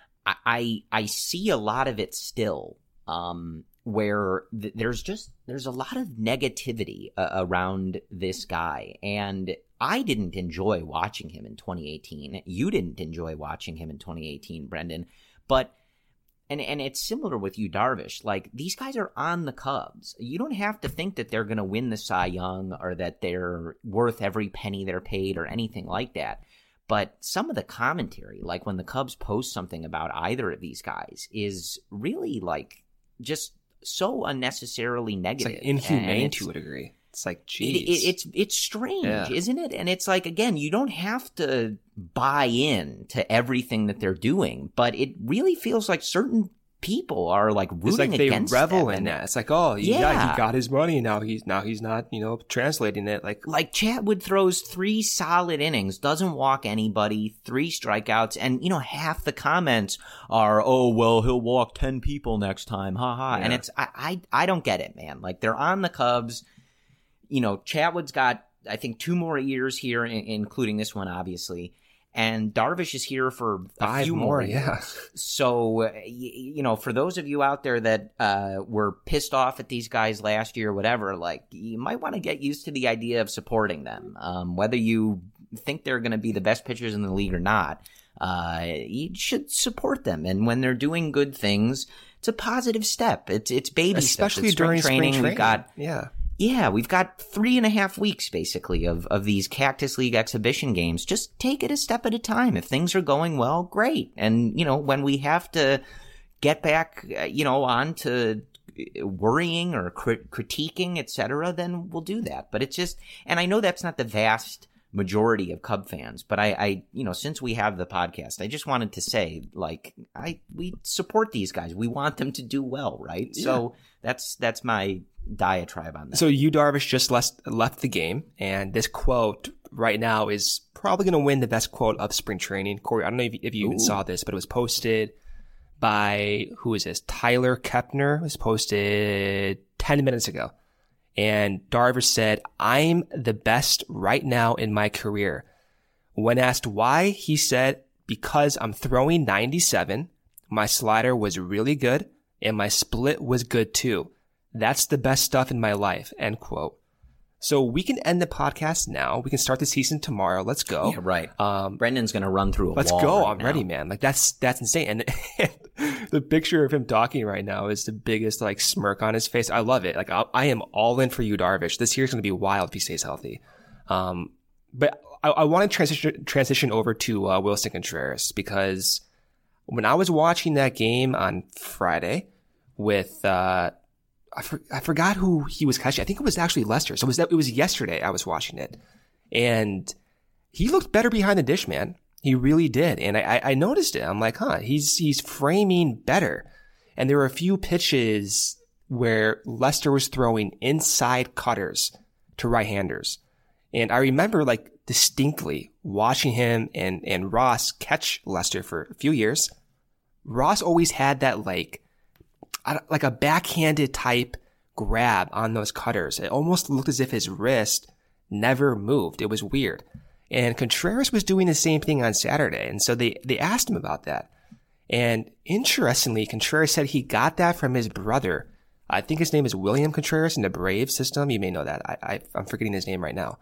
S6: I I see a lot of it still. Um, where th- there's just, there's a lot of negativity uh, around this guy. And I didn't enjoy watching him in twenty eighteen. You didn't enjoy watching him in twenty eighteen, Brendan. But, and, and it's similar with you, Darvish. Like, these guys are on the Cubs. You don't have to think that they're going to win the Cy Young or that they're worth every penny they're paid or anything like that. But some of the commentary, like when the Cubs post something about either of these guys, is really like just so unnecessarily negative.
S7: It's like inhumane to a degree. It's like, geez.
S6: It, it, it's it's strange, yeah. isn't it? And it's like, again, you don't have to buy in to everything that they're doing, but it really feels like certain people are like rooting
S7: it's like
S6: against
S7: they revel
S6: them.
S7: in that. It's like, oh, yeah. yeah, he got his money. Now he's now he's not, you know, translating it. Like,
S6: like Chatwood throws three solid innings, doesn't walk anybody, three strikeouts, and you know half the comments are, oh well, he'll walk ten people next time, ha ha. Yeah. And it's I, I I don't get it, man. Like, they're on the Cubs. You know, Chatwood's got I think two more years here, including this one, obviously. And Darvish is here for a
S7: Five
S6: few
S7: more,
S6: more
S7: yeah.
S6: So, uh, you, you know, for those of you out there that uh, were pissed off at these guys last year or whatever, like, you might want to get used to the idea of supporting them. Um, whether you think they're going to be the best pitchers in the league or not, uh, you should support them. And when they're doing good things, it's a positive step. It's it's baby
S7: steps. Especially
S6: it's
S7: during
S6: spring
S7: training.
S6: training. We've got
S7: yeah.
S6: Yeah, we've got three and a half weeks, basically, of, of these Cactus League exhibition games. Just take it a step at a time. If things are going well, great. And, you know, when we have to get back, you know, on to worrying or crit- critiquing, et cetera, then we'll do that. But it's just, and I know that's not the vast majority of Cub fans, but I, I, you know, since we have the podcast, I just wanted to say, like, I, we support these guys. We want them to do well, right? Yeah. So that's, that's my diatribe on that.
S7: So you, Darvish, just left, left the game, and this quote right now is probably going to win the best quote of spring training. Corey, I don't know if, if you Ooh. even saw this, but it was posted by, who is this? Tyler Kepner. It was posted ten minutes ago. And Darvish said, I'm the best right now in my career. When asked why, he said, because I'm throwing ninety-seven, my slider was really good, and my split was good too. That's the best stuff in my life, end quote. So we can end the podcast now. We can start the season tomorrow. Let's go.
S6: Yeah, right. Um, Brendan's going to run through a
S7: let's
S6: wall.
S7: Let's go.
S6: Right
S7: I'm
S6: now.
S7: ready, man. Like, that's, that's insane. And, and the picture of him talking right now is the biggest, like, smirk on his face. I love it. Like, I, I am all in for you, Darvish. This year's going to be wild if he stays healthy. Um, but I, I want to transition, transition over to, uh, Wilson Contreras, because when I was watching that game on Friday with, uh, I, for, I forgot who he was catching. I think it was actually Lester. So it was that, it was yesterday I was watching it. And he looked better behind the dish, man. He really did. And I, I noticed it. I'm like, huh, he's, he's framing better. And there were a few pitches where Lester was throwing inside cutters to right-handers. And I remember, like, distinctly watching him and, and Ross catch Lester for a few years. Ross always had that, like, like a backhanded type grab on those cutters. It almost looked as if his wrist never moved. It was weird. And Contreras was doing the same thing on Saturday. And so they, they asked him about that. And interestingly, Contreras said he got that from his brother. I think his name is William Contreras in the Braves system. You may know that. I, I, I'm forgetting his name right now.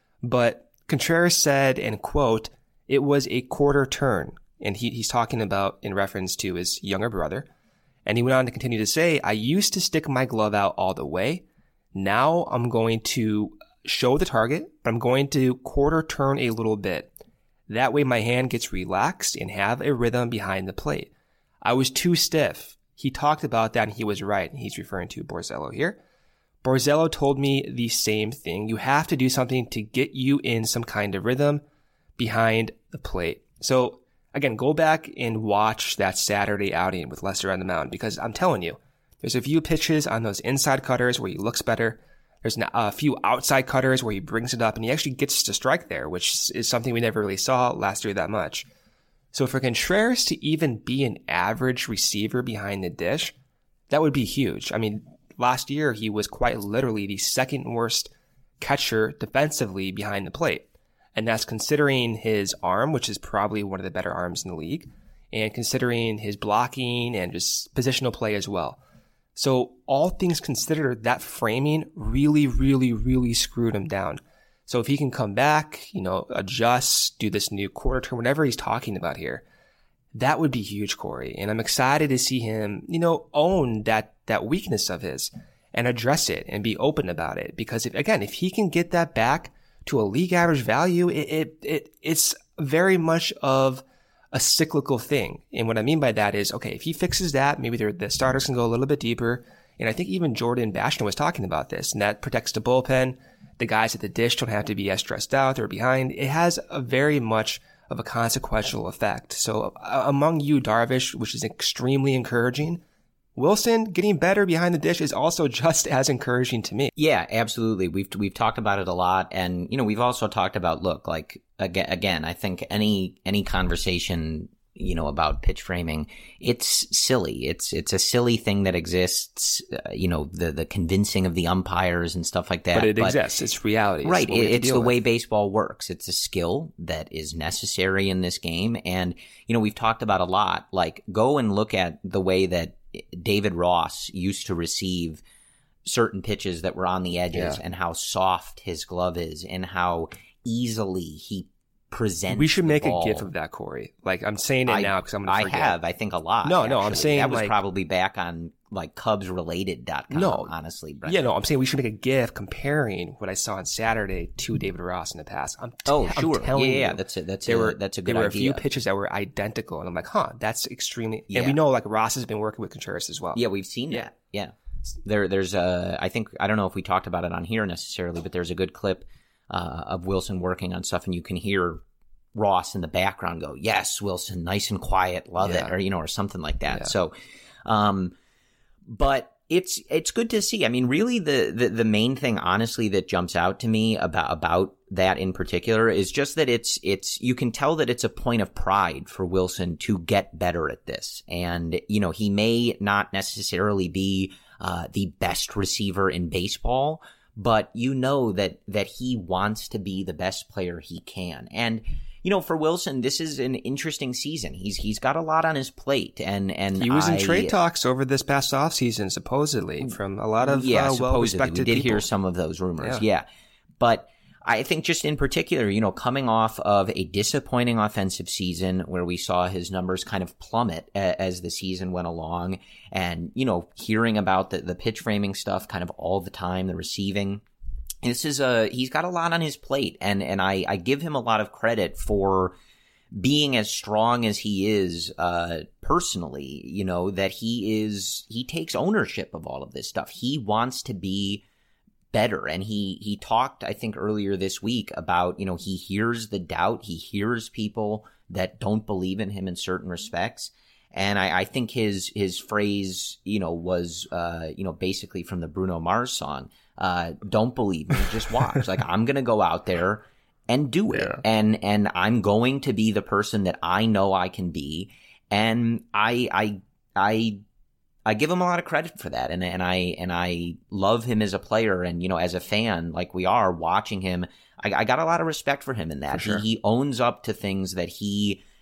S7: But Contreras said, and quote, it was a quarter turn. And he, he's talking about in reference to his younger brother. And he went on to continue to say, I used to stick my glove out all the way. Now I'm going to show the target, but I'm going to quarter turn a little bit. That way my hand gets relaxed and have a rhythm behind the plate. I was too stiff. He talked about that and he was right. And he's referring to Borzello here. Borzello told me the same thing. You have to do something to get you in some kind of rhythm behind the plate. So again, go back and watch that Saturday outing with Lester on the mound, because I'm telling you, there's a few pitches on those inside cutters where he looks better. There's a few outside cutters where he brings it up and he actually gets to strike there, which is something we never really saw last year that much. So for Contreras to even be an average receiver behind the dish, that would be huge. I mean, last year he was quite literally the second worst catcher defensively behind the plate. And that's considering his arm, which is probably one of the better arms in the league, and considering his blocking and just positional play as well. So all things considered, that framing really, really, really screwed him down. So if he can come back, you know, adjust, do this new quarter turn, whatever he's talking about here, that would be huge, Corey. And I'm excited to see him, you know, own that, that weakness of his and address it and be open about it. Because if, again, if he can get that back to a league average value, it, it, it it's very much of a cyclical thing. And what I mean by that is, okay, if he fixes that, maybe the starters can go a little bit deeper. And I think even Jordan Basham was talking about this, and that protects the bullpen. The guys at the dish don't have to be as stressed out or behind. It has a very much of a consequential effect. So uh, among you, Darvish, which is extremely encouraging, Wilson getting better behind the dish is also just as encouraging to me.
S6: Yeah, absolutely. We've we've talked about it a lot, and you know, we've also talked about look, like again, again, I think any any conversation, you know, about pitch framing, it's silly. It's it's a silly thing that exists. Uh, you know, the the convincing of the umpires and stuff like that.
S7: But it but, exists. It's reality.
S6: Right.
S7: It's,
S6: it, it's the
S7: with.
S6: way baseball works. It's a skill that is necessary in this game, and you know, we've talked about a lot. Like, go and look at the way that David Ross used to receive certain pitches that were on the edges, yeah. and how soft his glove is and how easily he presents.
S7: We should make
S6: ball.
S7: a gif of that, Corey. Like, I'm saying it
S6: I,
S7: now because I'm going to forget.
S6: I have, I think, a lot.
S7: No,
S6: actually.
S7: no, I'm saying
S6: that was
S7: like,
S6: probably back on like Cubs Related dot com,
S7: no,
S6: honestly. Brendan.
S7: Yeah, no, I'm saying we should make a gif comparing what I saw on Saturday to David Ross in the past. I'm t-
S6: oh, sure.
S7: I'm telling
S6: yeah, yeah,
S7: you,
S6: that's a, that's
S7: there
S6: a,
S7: were,
S6: that's a good
S7: There were
S6: idea.
S7: a few pitches that were identical, and I'm like, huh, that's extremely.
S6: Yeah.
S7: And we know like Ross has been working with Contreras as well.
S6: Yeah, we've seen
S7: yeah.
S6: that. Yeah. There, there's a, I think, I don't know if we talked about it on here necessarily, but there's a good clip uh, of Wilson working on stuff, and you can hear Ross in the background go, yes, Wilson, nice and quiet, love
S7: yeah.
S6: it, or, you know, or something like that.
S7: Yeah.
S6: So, um, but it's, it's good to see. I mean, really the, the, the main thing, honestly, that jumps out to me about, about that in particular is just that it's, it's, you can tell that it's a point of pride for Wilson to get better at this. And, you know, he may not necessarily be, uh, the best receiver in baseball, but you know that, that he wants to be the best player he can. And, you know, for Wilson, this is an interesting season. He's he's got a lot on his plate, and and
S7: he was
S6: I,
S7: in trade talks over this past offseason, supposedly, from a lot of
S6: yeah,
S7: uh, well-respected
S6: we did
S7: people.
S6: hear some of those rumors, yeah.
S7: yeah.
S6: But I think just in particular, you know, coming off of a disappointing offensive season where we saw his numbers kind of plummet a, as the season went along, and you know, hearing about the the pitch framing stuff kind of all the time, the receiving. This is a, he's got a lot on his plate, and, and I, I give him a lot of credit for being as strong as he is, uh, personally, you know, that he is, he takes ownership of all of this stuff. He wants to be better. And he, he talked, I think earlier this week about, you know, he hears the doubt. He hears people that don't believe in him in certain respects. And I, I think his, his phrase, you know, was, uh, you know, basically from the Bruno Mars song. Uh, don't believe me, just watch. Like, I'm going to go out there and do it. Yeah. And, and I'm going to be the person that I know I can be. And I, I, I, I give him a lot of credit for that. And, and I, and I love him as a player. And, you know, as a fan, like we are watching him, I, I got a lot of respect for him in that.
S7: For sure.
S6: He, he owns up to things that he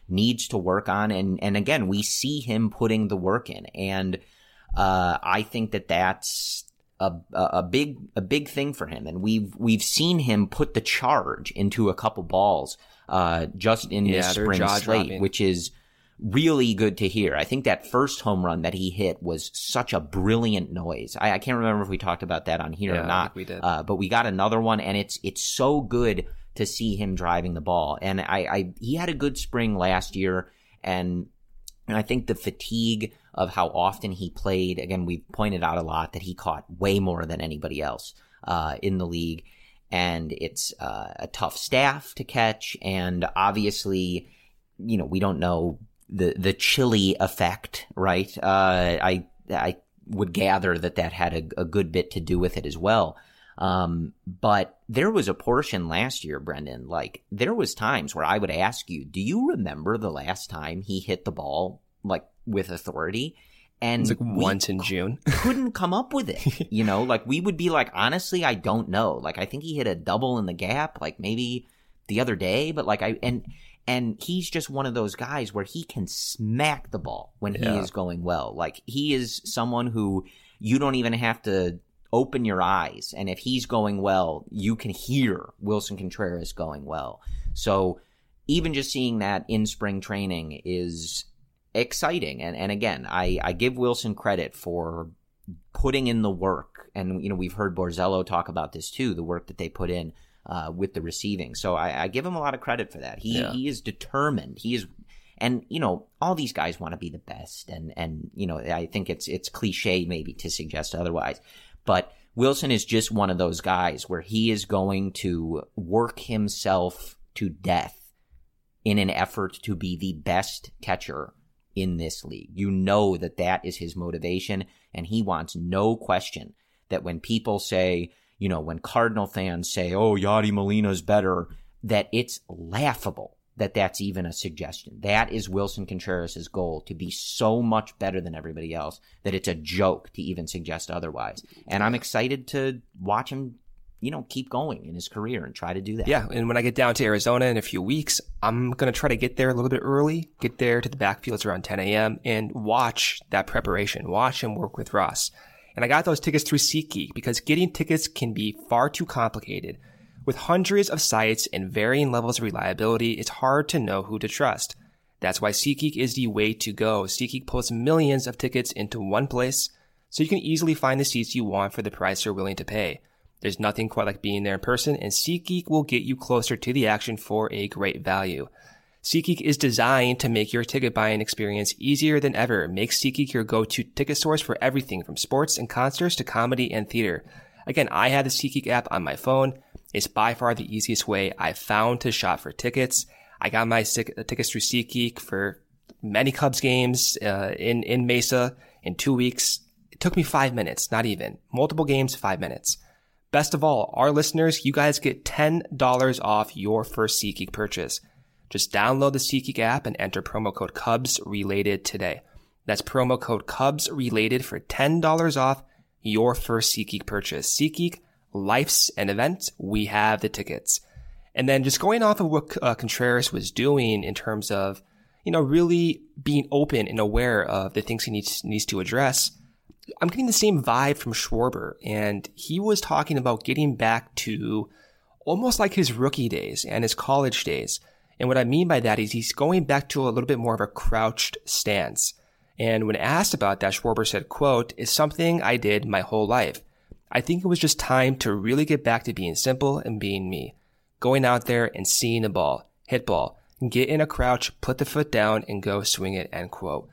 S6: needs to work on. And, and again, we see him putting the work in. And uh, I think that that's a, a big a big thing for him. And we've we've seen him put the charge into a couple balls uh, just in
S7: yeah,
S6: this spring slate,
S7: dropping.
S6: which is really good to hear. I think that first home run that he hit was such a brilliant noise. I, I can't remember if we talked about that on here
S7: yeah,
S6: or not.
S7: I think we did.
S6: Uh, but we got another one, and it's it's so good to see him driving the ball. And I, I he had a good spring last year, and, and I think the fatigue of how often he played, again, we've pointed out a lot that he caught way more than anybody else uh, in the league. And it's uh, a tough staff to catch, and obviously, you know, we don't know the the chili effect, right? Uh, I I would gather that that had a, a good bit to do with it as well. Um, but there was a portion last year, Brendan, like there was times where I would ask you, do you remember the last time he hit the ball like with authority? And
S7: it's like once in June.
S6: Couldn't come up with it. You know, like we would be like, honestly, I don't know. Like I think he hit a double in the gap, like maybe the other day, but like I, and, and he's just one of those guys where he can smack the ball when
S7: yeah.
S6: he is going well. Like he is someone who you don't even have to open your eyes, and if he's going well, you can hear Willson Contreras going well. So even just seeing that in spring training is exciting. And and again, I, I give Willson credit for putting in the work. And, you know, we've heard Borzello talk about this too, the work that they put in uh, with the receiving. So I, I give him a lot of credit for that. He
S7: yeah.
S6: he is determined. He is, and, you know, all these guys want to be the best. And, and you know, I think it's it's cliche maybe to suggest otherwise. But Willson is just one of those guys where he is going to work himself to death in an effort to be the best catcher in this league. You know that that is his motivation, and he wants no question that when people say, you know, when Cardinal fans say, oh, Yadi Molina's better, that it's laughable that that's even a suggestion. That is Willson Contreras' goal, to be so much better than everybody else that it's a joke to even suggest otherwise. And I'm excited to watch him, you know, keep going in his career and try to do that.
S7: Yeah, and when I get down to Arizona in a few weeks, I'm going to try to get there a little bit early, get there to the backfields around ten a.m. and watch that preparation, watch him work with Ross. And I got those tickets through SeatGeek because getting tickets can be far too complicated. With hundreds of sites and varying levels of reliability, it's hard to know who to trust. That's why SeatGeek is the way to go. SeatGeek pulls millions of tickets into one place, so you can easily find the seats you want for the price you're willing to pay. There's nothing quite like being there in person, and SeatGeek will get you closer to the action for a great value. SeatGeek is designed to make your ticket buying experience easier than ever. Make SeatGeek your go-to ticket source for everything from sports and concerts to comedy and theater. Again, I have the SeatGeek app on my phone. It's by far the easiest way I've found to shop for tickets. I got my tickets through SeatGeek for many Cubs games uh, in, in Mesa in two weeks. It took me five minutes, not even. Multiple games, five minutes. Best of all, our listeners, you guys get ten dollars off your first SeatGeek purchase. Just download the SeatGeek app and enter promo code CubsRelated today. That's promo code CubsRelated for ten dollars off your first SeatGeek purchase. SeatGeek, life's an event. We have the tickets. And then just going off of what uh, Contreras was doing in terms of, you know, really being open and aware of the things he needs needs to address, I'm getting the same vibe from Schwarber. And he was talking about getting back to almost like his rookie days and his college days. And what I mean by that is he's going back to a little bit more of a crouched stance. And when asked about that, Schwarber said, quote, "It's something I did my whole life. I think it was just time to really get back to being simple and being me. Going out there and seeing the ball, hit ball, get in a crouch, put the foot down, and go swing it," end quote.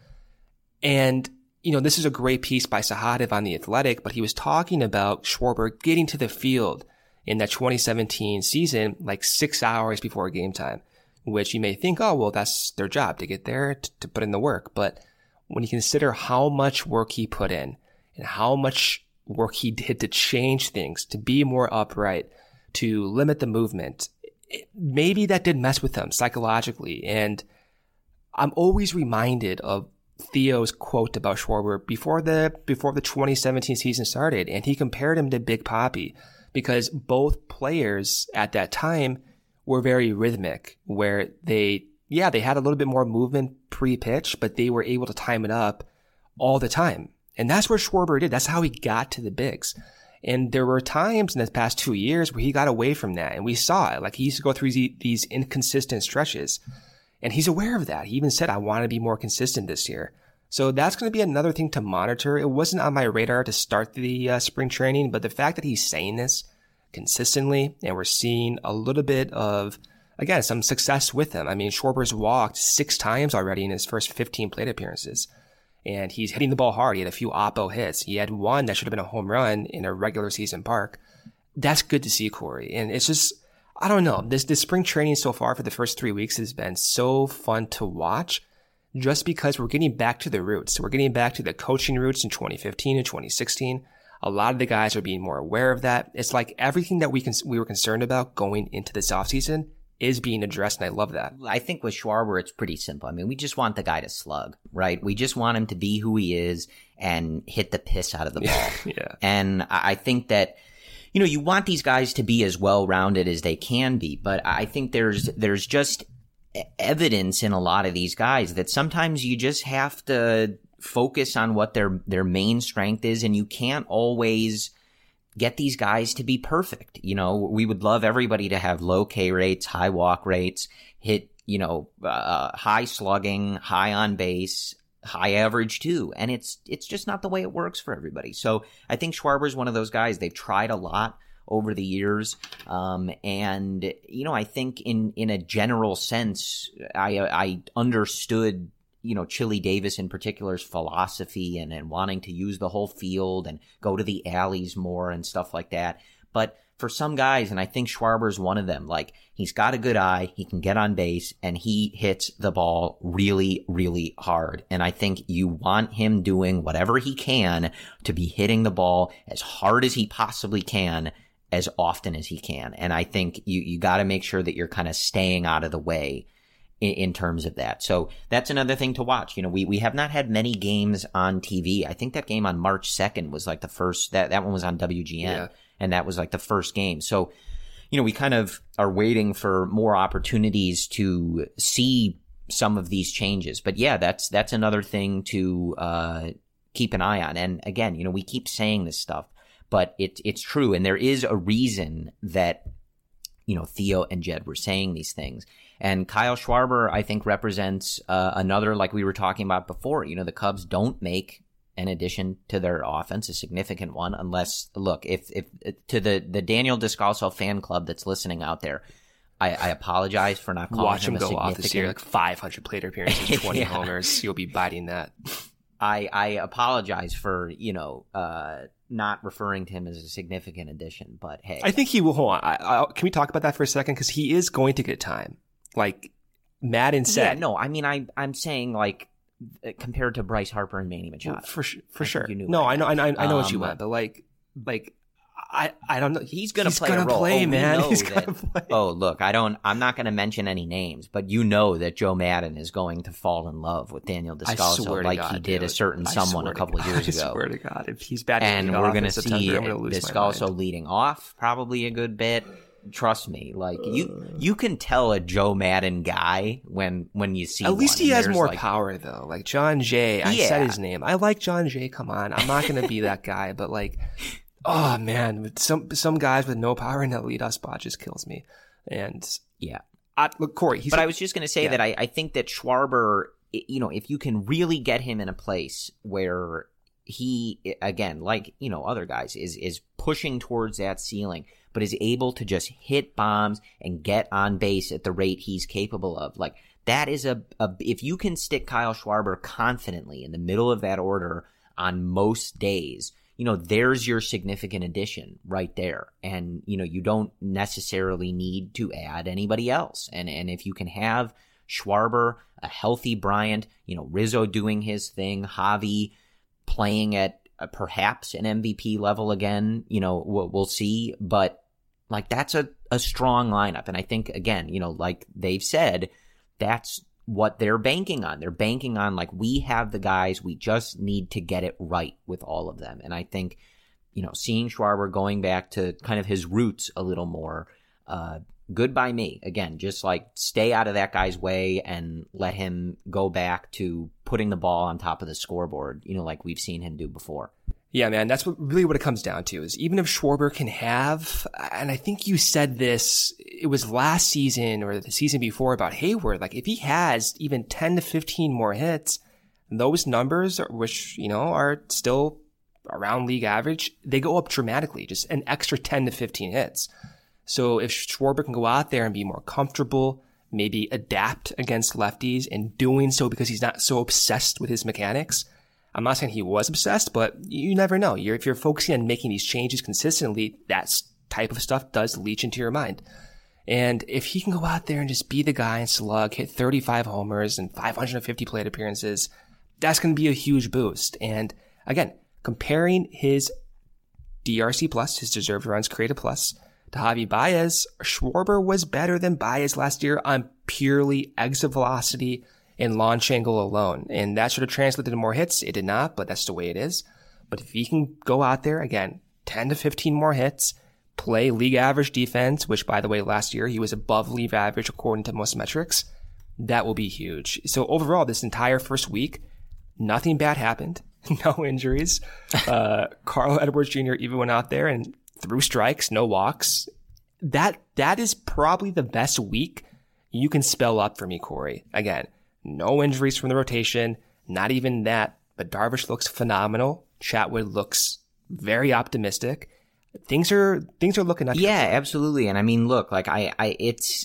S7: And, you know, this is a great piece by Sahadev on The Athletic, but he was talking about Schwarber getting to the field in that twenty seventeen season like six hours before game time, which you may think, oh, well, that's their job to get there, to, to put in the work. But when you consider how much work he put in and how much work he did to change things, to be more upright, to limit the movement, it, maybe that did mess with him psychologically. And I'm always reminded of Theo's quote about Schwarber before the before the twenty seventeen season started, and he compared him to Big Papi because both players at that time were very rhythmic, where they yeah, they had a little bit more movement pre-pitch, but they were able to time it up all the time. And that's what Schwarber did. That's how he got to the bigs. And there were times in the past two years where he got away from that. And we saw it. Like, he used to go through these inconsistent stretches. And he's aware of that. He even said, I want to be more consistent this year. So that's going to be another thing to monitor. It wasn't on my radar to start the uh, spring training, but the fact that he's saying this consistently, and we're seeing a little bit of, again, some success with him. I mean, Schwarber's walked six times already in his first fifteen plate appearances. And he's hitting the ball hard. He had a few oppo hits. He had one that should have been a home run in a regular season park. That's good to see, Corey. And it's just, I don't know. This, this spring training so far for the first three weeks has been so fun to watch, just because we're getting back to the roots. We're getting back to the coaching roots in twenty fifteen and twenty sixteen. A lot of the guys are being more aware of that. It's like everything that we can, we were concerned about going into this offseason is being addressed, and I love that.
S6: I think with Schwarber, it's pretty simple. I mean, we just want the guy to slug, right? We just want him to be who he is and hit the piss out of the ball.
S7: Yeah.
S6: And I think that, you know, you want these guys to be as well-rounded as they can be, but I think there's there's just evidence in a lot of these guys that sometimes you just have to focus on what their their main strength is, and you can't always get these guys to be perfect. You know, we would love everybody to have low K rates, high walk rates, hit, you know, uh, high slugging, high on base, high average too. And it's, it's just not the way it works for everybody. So I think Schwarber's one of those guys. They've tried a lot over the years. Um, and, you know, I think in, in a general sense, I, I understood, you know, Chili Davis in particular's philosophy and, and wanting to use the whole field and go to the alleys more and stuff like that. But for some guys, and I think Schwarber's one of them, like, he's got a good eye, he can get on base, and he hits the ball really, really hard. And I think you want him doing whatever he can to be hitting the ball as hard as he possibly can, as often as he can. And I think you, you got to make sure that you're kind of staying out of the way in terms of that. So that's another thing to watch. You know, we, we have not had many games on T V. I think that game on March second was like the first, that, that one was on W G N, yeah. And that was like the first game. So, you know, we kind of are waiting for more opportunities to see some of these changes. But yeah, that's, that's another thing to, uh, keep an eye on. And again, you know, we keep saying this stuff, but it, it's true. And there is a reason that, you know, Theo and Jed were saying these things. And Kyle Schwarber, I think, represents uh, another, like we were talking about before. You know, the Cubs don't make an addition to their offense, a significant one, unless, look, if if to the, the Daniel Descalso fan club that's listening out there, I, I apologize for not calling
S7: Watch
S6: him,
S7: him
S6: a
S7: go off this year, like five hundred plate appearances, twenty
S6: yeah.
S7: homers. You'll be biting that.
S6: I, I apologize for, you know, uh, not referring to him as a significant addition, but hey.
S7: I think he will, hold on. I, I, can we talk about that for a second? Because he is going to get time. Like Madden said.
S6: Yeah, no, I mean, I, I'm saying, like, compared to Bryce Harper and Manny Machado.
S7: Well, for for
S6: I
S7: sure.
S6: You knew
S7: no, I know, I know, I know
S6: um,
S7: what you meant, but like, like, I, I don't know.
S6: He's gonna
S7: he's
S6: play
S7: gonna
S6: a role.
S7: play,
S6: oh,
S7: man. He's
S6: that,
S7: gonna play.
S6: Oh, look, I don't. I'm not gonna mention any names, but you know that Joe Madden is going to fall in love with Daniel Descalso, like
S7: God,
S6: he did
S7: dude.
S6: a certain
S7: I
S6: someone a couple of years
S7: I
S6: ago.
S7: I swear to God, if he's batting
S6: and we're gonna see
S7: September, gonna
S6: Descalso leading off probably a good bit. Trust me, like you, you can tell a Joe Madden guy when when you see.
S7: At least
S6: one,
S7: he has more
S6: like,
S7: power, though. Like John Jay, I
S6: yeah.
S7: said his name. I like John Jay. Come on, I'm not gonna be that guy, but like, oh man, some some guys with no power in that leadoff spot just kills me. And
S6: yeah,
S7: I, look, Corey. He's
S6: but
S7: a,
S6: I was just gonna say
S7: yeah.
S6: that I, I think that Schwarber, you know, if you can really get him in a place where he, again, like you know, other guys, is is pushing towards that ceiling, but is able to just hit bombs and get on base at the rate he's capable of. Like, that is a, a if you can stick Kyle Schwarber confidently in the middle of that order on most days, you know, there's your significant addition right there. And, you know, you don't necessarily need to add anybody else. And, and if you can have Schwarber, a healthy Bryant, you know, Rizzo doing his thing, Javi playing at uh, perhaps an M V P level again, you know, we'll, we'll see. But, like, that's a, a strong lineup. And I think, again, you know, like they've said, that's what they're banking on. They're banking on, like, we have the guys, we just need to get it right with all of them. And I think, you know, seeing Schwarber going back to kind of his roots a little more, uh, good by me. Again, just like stay out of that guy's way and let him go back to putting the ball on top of the scoreboard, you know, like we've seen him do before.
S7: Yeah, man, that's what really what it comes down to is even if Schwarber can have, and I think you said this, it was last season or the season before about Hayward, like if he has even ten to fifteen more hits, those numbers, which, you know, are still around league average, they go up dramatically, just an extra ten to fifteen hits. So if Schwarber can go out there and be more comfortable, maybe adapt against lefties and doing so because he's not so obsessed with his mechanics. I'm not saying he was obsessed, but you never know. You're, if you're focusing on making these changes consistently, that type of stuff does leach into your mind. And if he can go out there and just be the guy and slug, hit thirty-five homers and five hundred fifty plate appearances, that's going to be a huge boost. And again, comparing his D R C plus, his deserved runs created plus, to Javi Baez, Schwarber was better than Baez last year on purely exit velocity and launch angle alone. And that should have translated to more hits. It did not, but that's the way it is. But if he can go out there, again, ten to fifteen more hits, play league average defense, which by the way, last year he was above league average according to most metrics, that will be huge. So overall, this entire first week, nothing bad happened. No injuries. Uh, Carl Edwards Junior even went out there and threw strikes, no walks. That, that is probably the best week you can spell up for me, Corey. Again, no injuries from the rotation, not even that, but Darvish looks phenomenal. Chatwood looks very optimistic. Things are, things are looking up.
S6: Yeah, absolutely. And I mean, look, like I, I, it's,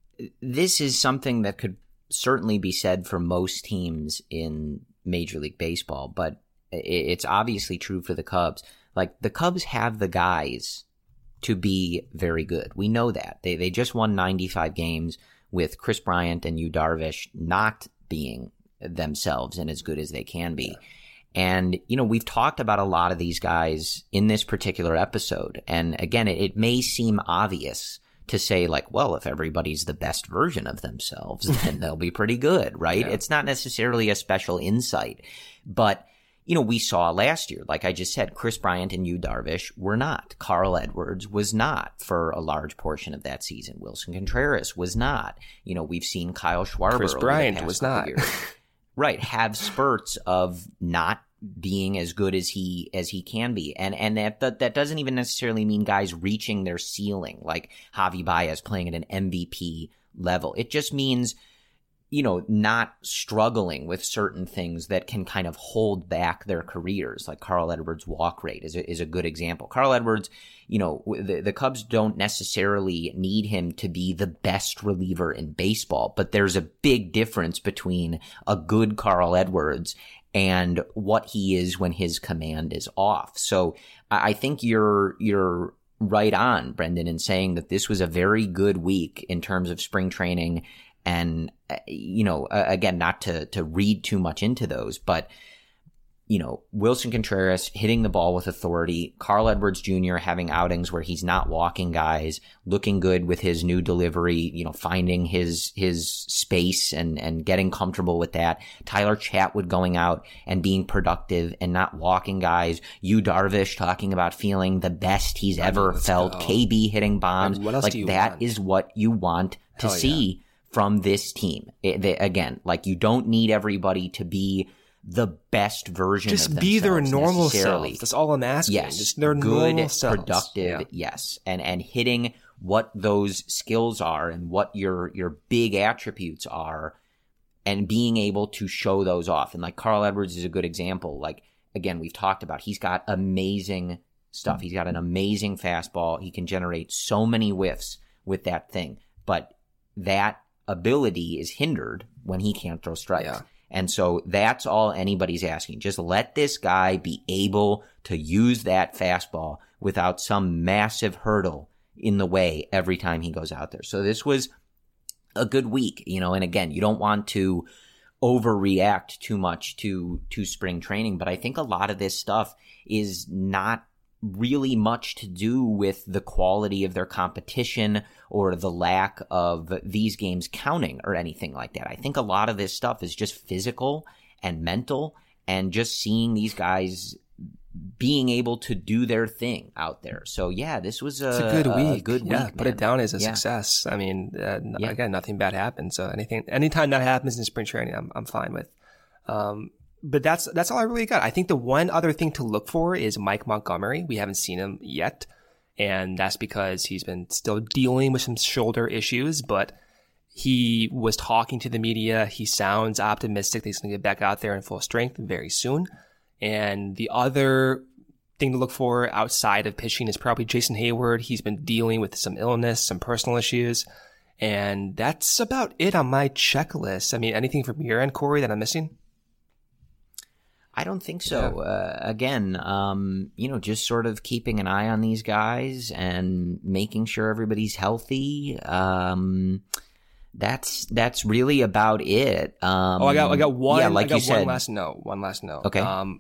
S6: this is something that could certainly be said for most teams in Major League Baseball, but it's obviously true for the Cubs. Like the Cubs have the guys to be very good. We know that. They they just won ninety-five games with Chris Bryant and Yu Darvish not being themselves and as good as they can be. Yeah. And, you know, we've talked about a lot of these guys in this particular episode. And again, it, it may seem obvious to say like, well, if everybody's the best version of themselves, then they'll be pretty good, right? Yeah. It's not necessarily a special insight, but you know, we saw last year, like I just said, Chris Bryant and Yu Darvish were not. Carl Edwards was not for a large portion of that season. Wilson Contreras was not. You know, we've seen Kyle Schwarber.
S7: Chris Bryant was not.
S6: Right. Have spurts of not being as good as he as he can be. And and that, that that doesn't even necessarily mean guys reaching their ceiling, like Javi Baez playing at an M V P level. It just means, you know, not struggling with certain things that can kind of hold back their careers. Like Carl Edwards' walk rate is a, is a good example. Carl Edwards, you know, the, the Cubs don't necessarily need him to be the best reliever in baseball, but there's a big difference between a good Carl Edwards and what he is when his command is off. So I think you're, you're right on, Brendan, in saying that this was a very good week in terms of spring training. And, you know, again, not to, to read too much into those, but, you know, Wilson Contreras hitting the ball with authority, Carl Edwards Junior having outings where he's not walking guys, looking good with his new delivery, you know, finding his, his space and, and getting comfortable with that. Tyler Chatwood going out and being productive and not walking guys. Yu Darvish talking about feeling the best he's ever felt. Go. K B hitting bombs. Like that want? Is what you want to Hell see. Yeah. From this team. It, they, again, like you don't need everybody to be the best version
S7: just
S6: of themselves.
S7: Just be their normal self. That's all I'm asking.
S6: Yes.
S7: Just their
S6: good,
S7: normal selves.
S6: productive,
S7: yeah.
S6: yes. And and hitting what those skills are and what your your big attributes are and being able to show those off. And like Carl Edwards is a good example. Like, again, we've talked about he's got amazing stuff. He's got an amazing fastball. He can generate so many whiffs with that thing. But that ability is hindered when he can't throw strikes. Yeah. And so that's all anybody's asking. Just let this guy be able to use that fastball without some massive hurdle in the way every time he goes out there. So this was a good week, you know, and again, you don't want to overreact too much to, to spring training, but I think a lot of this stuff is not really much to do with the quality of their competition or the lack of these games counting or anything like that. I think a lot of this stuff is just physical and mental and just seeing these guys being able to do their thing out there. So yeah, this was a,
S7: it's a good week.
S6: A good
S7: yeah,
S6: week.
S7: Put
S6: man.
S7: it down as a
S6: yeah.
S7: success. I mean, uh,
S6: yeah.
S7: again, nothing bad happened. So anything, anytime that happens in spring training, I'm I'm fine with. Um, but that's that's all I really got. I think the one other thing to look for is Mike Montgomery. We haven't seen him yet, and that's because he's been still dealing with some shoulder issues, but he was talking to the media. He sounds optimistic that he's going to get back out there in full strength very soon. And the other thing to look for outside of pitching is probably Jason Hayward. He's been dealing with some illness, some personal issues. And that's about it on my checklist. I mean, anything from your end, Corey, that I'm missing?
S6: I don't think so. Yeah. Uh, again, um, you know, just sort of keeping an eye on these guys and making sure everybody's healthy. Um, that's that's really about it. Um,
S7: oh, I got I got one.
S6: Yeah, like
S7: I got
S6: you said.
S7: One last note. One last note.
S6: Okay.
S7: Um,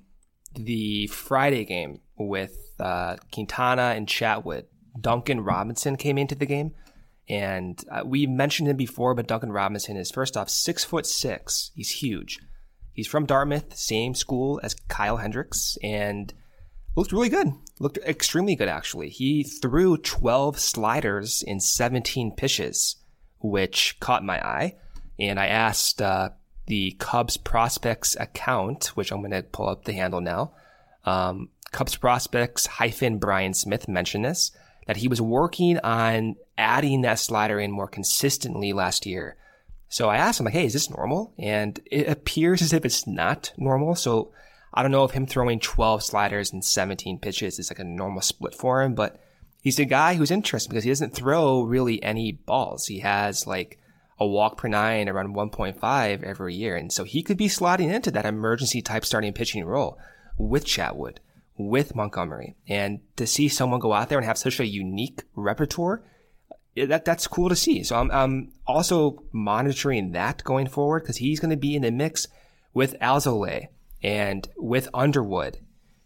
S7: the Friday game with uh, Quintana and Chatwood, Duncan Robinson came into the game, and uh, we mentioned him before. But Duncan Robinson is first off six foot six. He's huge. He's from Dartmouth, same school as Kyle Hendricks, and looked really good. Looked extremely good, actually. He threw twelve sliders in seventeen pitches, which caught my eye. And I asked uh, the Cubs Prospects account, which I'm going to pull up the handle now. Um, Cubs Prospects hyphen Brian Smith mentioned this, that he was working on adding that slider in more consistently last year. So I asked him, like, hey, is this normal? And it appears as if it's not normal. So I don't know if him throwing twelve sliders and seventeen pitches is like a normal split for him, but he's a guy who's interesting because he doesn't throw really any balls. He has like a walk per nine around one point five every year. And so he could be slotting into that emergency type starting pitching role with Chatwood, with Montgomery. And to see someone go out there and have such a unique repertoire, that that's cool to see. So I'm, I'm also monitoring that going forward because he's going to be in the mix with Alzolay and with Underwood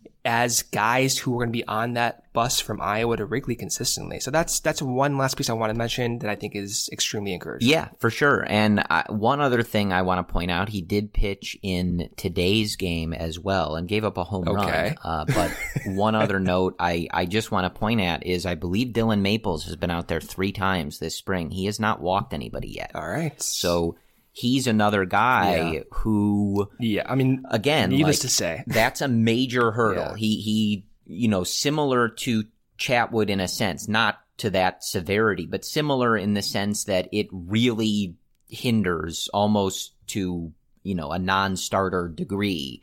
S7: as guys who are going to be on that bus from Iowa to Wrigley consistently. So that's that's one last piece I want to mention that I think is extremely encouraging.
S6: Yeah, for sure. And uh, one other thing I want to point out, he did pitch in today's game as well and gave up a home
S7: okay.
S6: run. Uh, but one other note I, I just want to point at is I believe Dylan Maples has been out there three times this spring. He has not walked anybody yet.
S7: All right.
S6: So he's another guy yeah. who,
S7: yeah, I mean,
S6: again,
S7: needless
S6: like,
S7: to say,
S6: that's a major hurdle.
S7: Yeah.
S6: He, he, you know, similar to Chatwood in a sense, not to that severity, but similar in the sense that it really hinders almost to, you know, a non-starter degree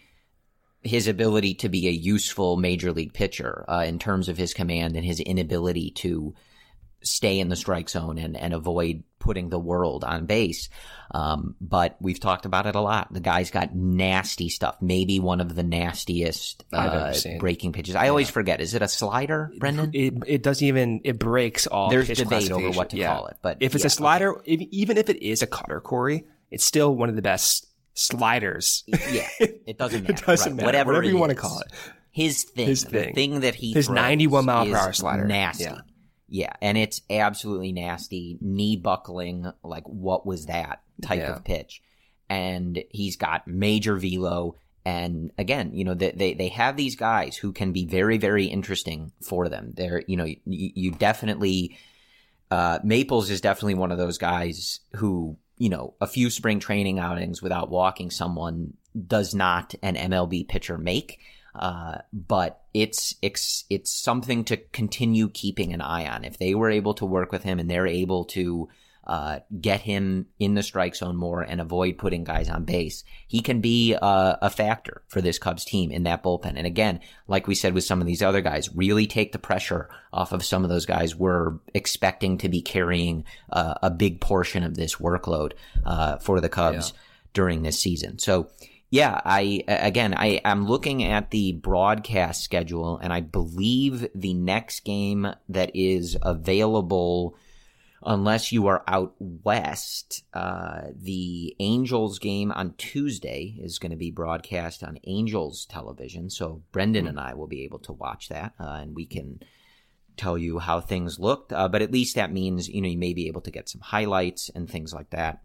S6: his ability to be a useful major league pitcher uh, in terms of his command and his inability to stay in the strike zone and, and avoid putting the world on base. Um, but we've talked about it a lot. The guy's got nasty stuff. Maybe one of the nastiest uh, breaking pitches. I yeah. always forget. Is it a slider, Brendan?
S7: It, it doesn't even, it breaks all
S6: There's
S7: pitch
S6: debate over what to
S7: yeah.
S6: call it. But
S7: if it's
S6: yeah,
S7: a slider,
S6: okay.
S7: if, even if it is a cutter, Corey, it's still one of the best sliders.
S6: Yeah, it doesn't matter.
S7: It doesn't
S6: right.
S7: matter.
S6: Whatever,
S7: Whatever you
S6: is.
S7: want to call it.
S6: His thing.
S7: His thing.
S6: The thing that he
S7: His ninety-one mile per hour slider.
S6: Nasty.
S7: Yeah.
S6: Yeah, and it's absolutely nasty, knee buckling, like what was that type
S7: yeah.
S6: of pitch. And he's got major velo. And again, you know, they, they, they have these guys who can be very, very interesting for them. They're, you know, you, you definitely, uh, Maples is definitely one of those guys who, you know, a few spring training outings without walking someone does not an M L B pitcher make. Uh, but it's, it's, it's something to continue keeping an eye on. If they were able to work with him and they're able to, uh, get him in the strike zone more and avoid putting guys on base, he can be a, a factor for this Cubs team in that bullpen. And again, like we said with some of these other guys, really take the pressure off of some of those guys we're expecting to be carrying uh, a big portion of this workload, uh, for the Cubs yeah. during this season. So, yeah, I, again, I, I'm looking at the broadcast schedule, and I believe the next game that is available, unless you are out west, uh, the Angels game on Tuesday is going to be broadcast on Angels television. So Brendan and I will be able to watch that, uh, and we can tell you how things looked. Uh, but at least that means, you know, you may be able to get some highlights and things like that.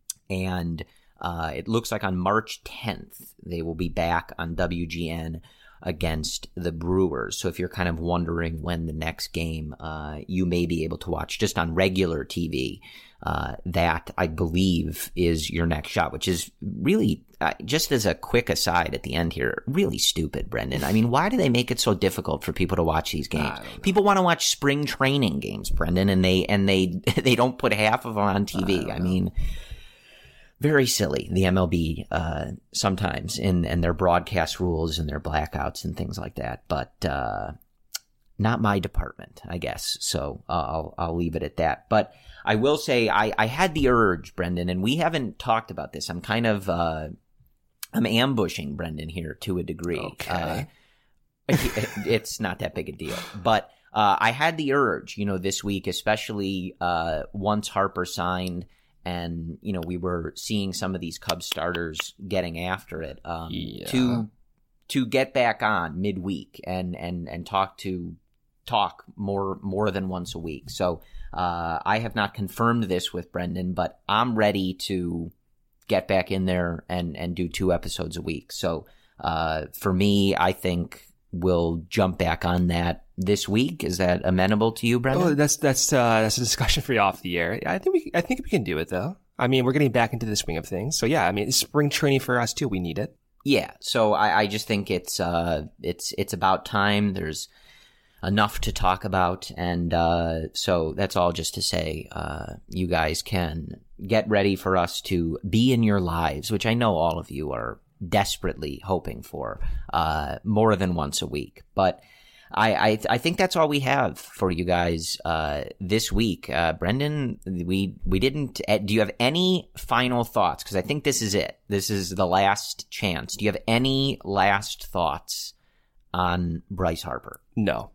S6: And Uh, it looks like on March tenth, they will be back on W G N against the Brewers. So if you're kind of wondering when the next game uh, you may be able to watch just on regular T V, uh, that I believe is your next shot, which is really, uh, just as a quick aside at the end here, really stupid, Brendan. I mean, why do they make it so difficult for people to watch these games? People want to watch spring training games, Brendan, and they and they they don't put half of them on T V. I, I mean, very silly, the M L B uh, sometimes in and their broadcast rules and their blackouts and things like that. But uh, not my department, I guess. So uh, I'll I'll leave it at that. But I will say I, I had the urge, Brendan, and we haven't talked about this. I'm kind of uh, I'm ambushing Brendan here to a degree.
S7: Okay,
S6: uh, it's not that big a deal, but uh, I had the urge, you know, this week, especially uh, once Harper signed, and you know we were seeing some of these Cubs starters getting after it, um,
S7: yeah.
S6: to to get back on midweek and and and talk to talk more more than once a week. So. Uh, I have not confirmed this with Brendan, but I'm ready to get back in there and, and do two episodes a week. So uh, for me, I think we'll jump back on that this week. Is that amenable to you, Brendan?
S7: Oh, that's that's uh, that's a discussion for you off the air. I think we I think we can do it though. I mean, we're getting back into the swing of things. So yeah, I mean, it's spring training for us too. We need it.
S6: Yeah. So I, I just think it's uh it's it's about time. There's enough to talk about, and uh, so that's all just to say uh, you guys can get ready for us to be in your lives, which I know all of you are desperately hoping for uh, more than once a week. But I, I I think that's all we have for you guys uh, this week. Uh, Brendan, we we didn't. Do you have any final thoughts? Because I think this is it. This is the last chance. Do you have any last thoughts on Bryce Harper?
S7: No.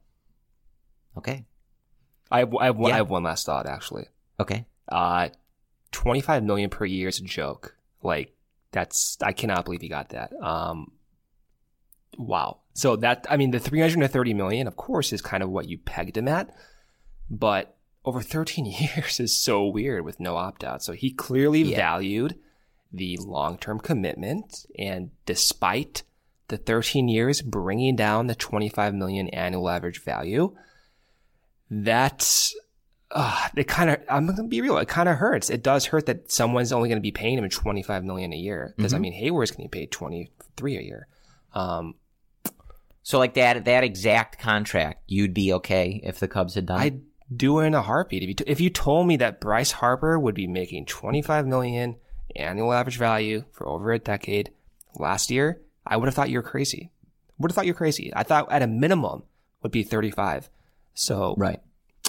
S6: Okay.
S7: I have, I have, one,
S6: Yeah.
S7: I have one last thought, actually.
S6: Okay.
S7: Uh, twenty-five million per year is a joke. Like, that's, I cannot believe he got that. Um, wow. So that, I mean, the three hundred thirty million, of course, is kind of what you pegged him at, but over thirteen years is so weird with no opt-out. So he clearly
S6: Yeah.
S7: valued the long-term commitment, and despite the thirteen years bringing down the twenty-five million annual average value, that's, uh, it kind of, I'm going to be real, it kind of hurts. It does hurt that someone's only going to be paying him twenty-five million a year. Because,
S6: Mhm.
S7: I mean, Hayward's getting paid twenty-three a year. Um,
S6: So like that that exact contract, you'd be okay if the Cubs had done it?
S7: I'd do it in a heartbeat. If you, t- if you told me that Bryce Harper would be making twenty-five million annual average value for over a decade last year, I would have thought you were crazy. Would have thought you were crazy. I thought at a minimum would be thirty-five. So
S6: Right.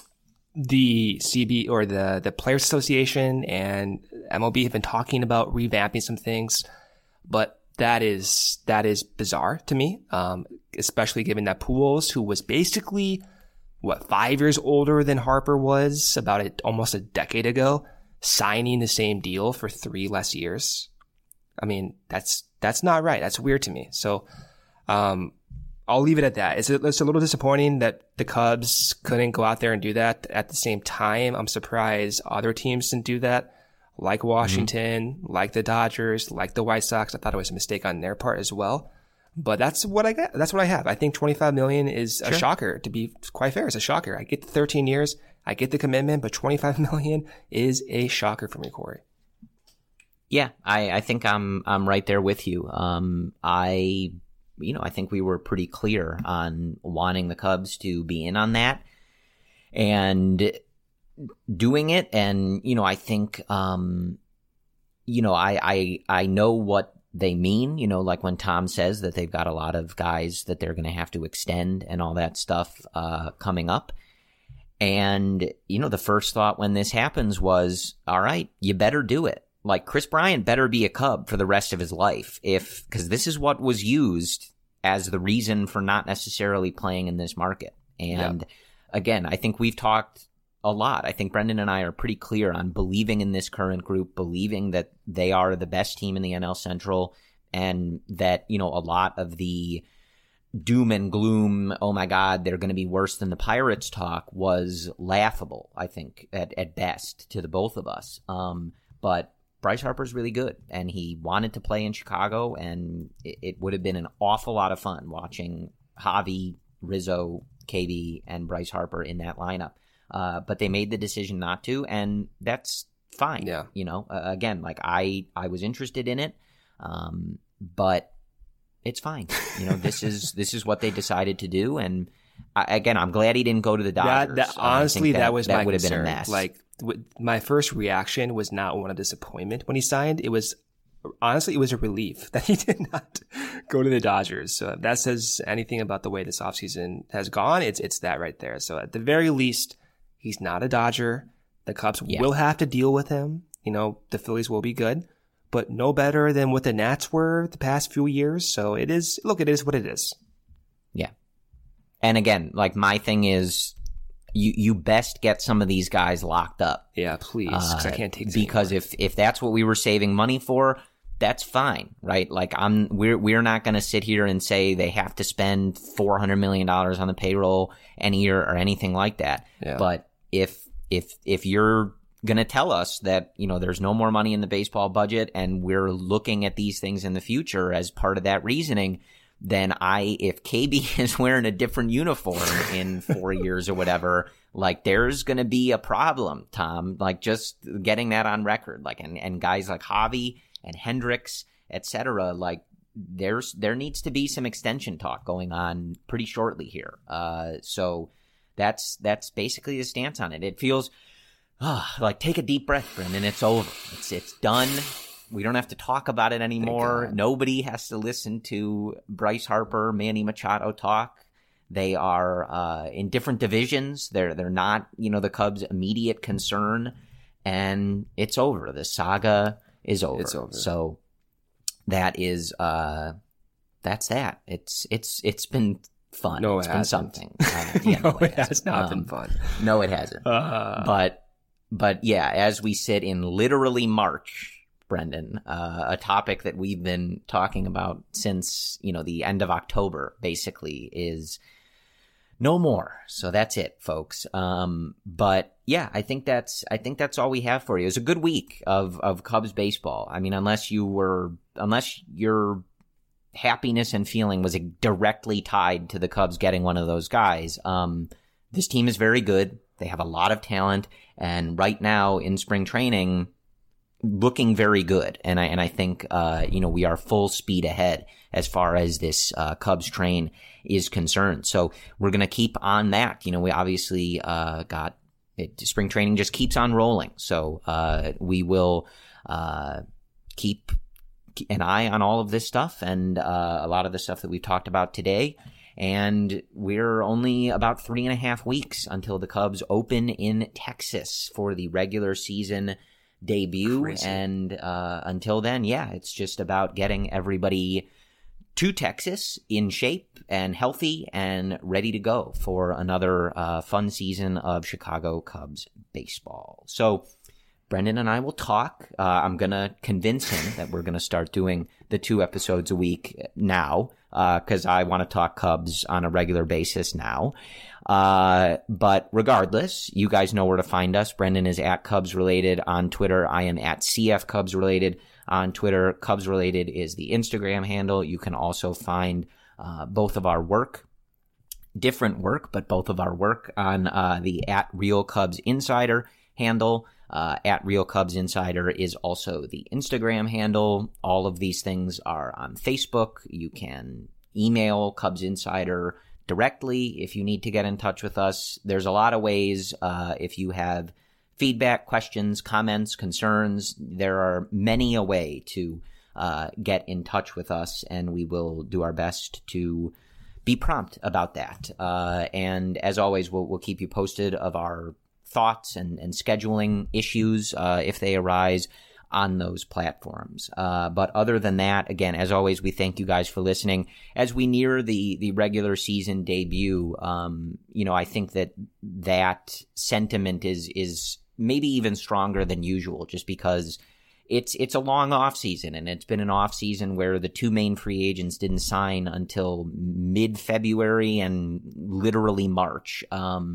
S7: the C B or the, the Players Association and M L B have been talking about revamping some things, but that is, that is bizarre to me. Um, especially given that Pujols, who was basically what, five years older than Harper was about a, almost a decade ago, signing the same deal for three less years. I mean, that's, that's not right. That's weird to me. So, um, I'll leave it at that. It's a, it's a little disappointing that the Cubs couldn't go out there and do that at the same time. I'm surprised other teams didn't do that, like Washington, mm-hmm. like the Dodgers, like the White Sox. I thought it was a mistake on their part as well. But that's what I got. That's what I have. I think twenty-five million is a
S6: Sure.
S7: shocker. To be quite fair, it's a shocker. I get the thirteen years, I get the commitment, but twenty-five million is a shocker for me, Corey.
S6: Yeah, I, I think I'm I'm right there with you. Um, I, you know, I think we were pretty clear on wanting the Cubs to be in on that and doing it. And you know, I think, um, you know, I I I know what they mean. You know, like when Tom says that they've got a lot of guys that they're going to have to extend and all that stuff uh, coming up. And you know, the first thought when this happens was, all right, you better do it. Like Chris Bryant better be a Cub for the rest of his life, if because this is what was used as the reason for not necessarily playing in this market. And
S7: Yep.
S6: again, I think we've talked a lot. I think Brendan and I are pretty clear on believing in this current group, believing that they are the best team in the N L Central, and that, you know, a lot of the doom and gloom, oh my God, they're going to be worse than the Pirates talk was laughable, I think, at, at best to the both of us. Um, but Bryce Harper's really good, and he wanted to play in Chicago, and it, it would have been an awful lot of fun watching Javi, Rizzo, K B, and Bryce Harper in that lineup. Uh, but they made the decision not to, and that's fine.
S7: Yeah.
S6: You know, uh, again, like I, I was interested in it, um, but it's fine. You know, this is this is what they decided to do, and I, again, I'm glad he didn't go to the Dodgers.
S7: That, that, honestly, that, that was
S6: that
S7: my
S6: would have
S7: concern.
S6: been a mess.
S7: Like, w- my first reaction was not one of disappointment when he signed. It was honestly, it was a relief that he did not go to the Dodgers. So if that says anything about the way this offseason has gone, it's it's that right there. So at the very least, he's not a Dodger. The Cubs
S6: yeah.
S7: will have to deal with him. You know, the Phillies will be good, but no better than what the Nats were the past few years. So it is, look, it is what it is.
S6: Yeah. And again, like my thing is, you you best get some of these guys locked up.
S7: Yeah, please, because
S6: uh,
S7: I can't take this
S6: because
S7: anymore.
S6: if if that's what we were saving money for, that's fine, right? Like I'm we're we're not going to sit here and say they have to spend four hundred million dollars on the payroll any year or anything like that.
S7: Yeah.
S6: But if if if you're going to tell us that, you know, there's no more money in the baseball budget and we're looking at these things in the future as part of that reasoning, then I, if K B is wearing a different uniform in four years or whatever, like there's going to be a problem, Tom, like just getting that on record, like, and, and guys like Javi and Hendricks, et cetera, like there's, there needs to be some extension talk going on pretty shortly here. Uh, so that's, that's basically the stance on it. It feels, oh, like take a deep breath, Brendan. It's over. It's, it's done. We don't have to talk about it anymore. Nobody has to listen to Bryce Harper, Manny Machado talk. They are uh, in different divisions. They're they're not, you know, the Cubs' immediate concern, and it's over. The saga is over.
S7: It's over.
S6: So that is uh, that's that. It's it's it's been fun.
S7: No, it
S6: it's
S7: hasn't.
S6: been something. Uh, yeah,
S7: no,
S6: no,
S7: it,
S6: it
S7: has
S6: hasn't.
S7: not
S6: Um,
S7: been fun.
S6: No, it hasn't.
S7: Uh,
S6: But but yeah, as we sit in literally March, Brendan, uh, a topic that we've been talking about since, you know, the end of October, basically, is no more. So that's it, folks. Um, but yeah, I think that's, I think that's all we have for you. It was a good week of, of Cubs baseball. I mean, unless you were, unless your happiness and feeling was directly tied to the Cubs getting one of those guys, um, this team is very good. They have a lot of talent. And right now in spring training, looking very good. And I, and I think, uh, you know, we are full speed ahead as far as this, uh, Cubs train is concerned. So we're going to keep on that. You know, we obviously, uh, got it. Spring training just keeps on rolling. So, uh, we will, uh, keep an eye on all of this stuff and, uh, a lot of the stuff that we've talked about today. And we're only about three and a half weeks until the Cubs open in Texas for the regular season debut.
S7: Crazy.
S6: And uh, until then, yeah, it's just about getting everybody to Texas in shape and healthy and ready to go for another uh, fun season of Chicago Cubs baseball. So Brendan and I will talk. Uh, I'm going to convince him that we're going to start doing the two episodes a week now because uh, I want to talk Cubs on a regular basis now. Uh, but regardless, you guys know where to find us. Brendan is at Cubs Related on Twitter. I am at C F Cubs Related on Twitter. Cubs Related is the Instagram handle. You can also find uh, both of our work, different work, but both of our work on uh, the at Real Cubs Insider handle. Uh, at Real Cubs Insider is also the Instagram handle. All of these things are on Facebook. You can email Cubs Insider directly if you need to get in touch with us. There's a lot of ways. Uh, if you have feedback, questions, comments, concerns, there are many a way to uh, get in touch with us, and we will do our best to be prompt about that. Uh, and as always, we'll, we'll keep you posted of our thoughts and, and scheduling issues uh, if they arise on those platforms. Uh, but other than that, again, as always, we thank you guys for listening. As we near the, the regular season debut, um, you know, I think that that sentiment is, is maybe even stronger than usual just because it's, it's a long off season, and it's been an off season where the two main free agents didn't sign until mid-February and literally March. Um,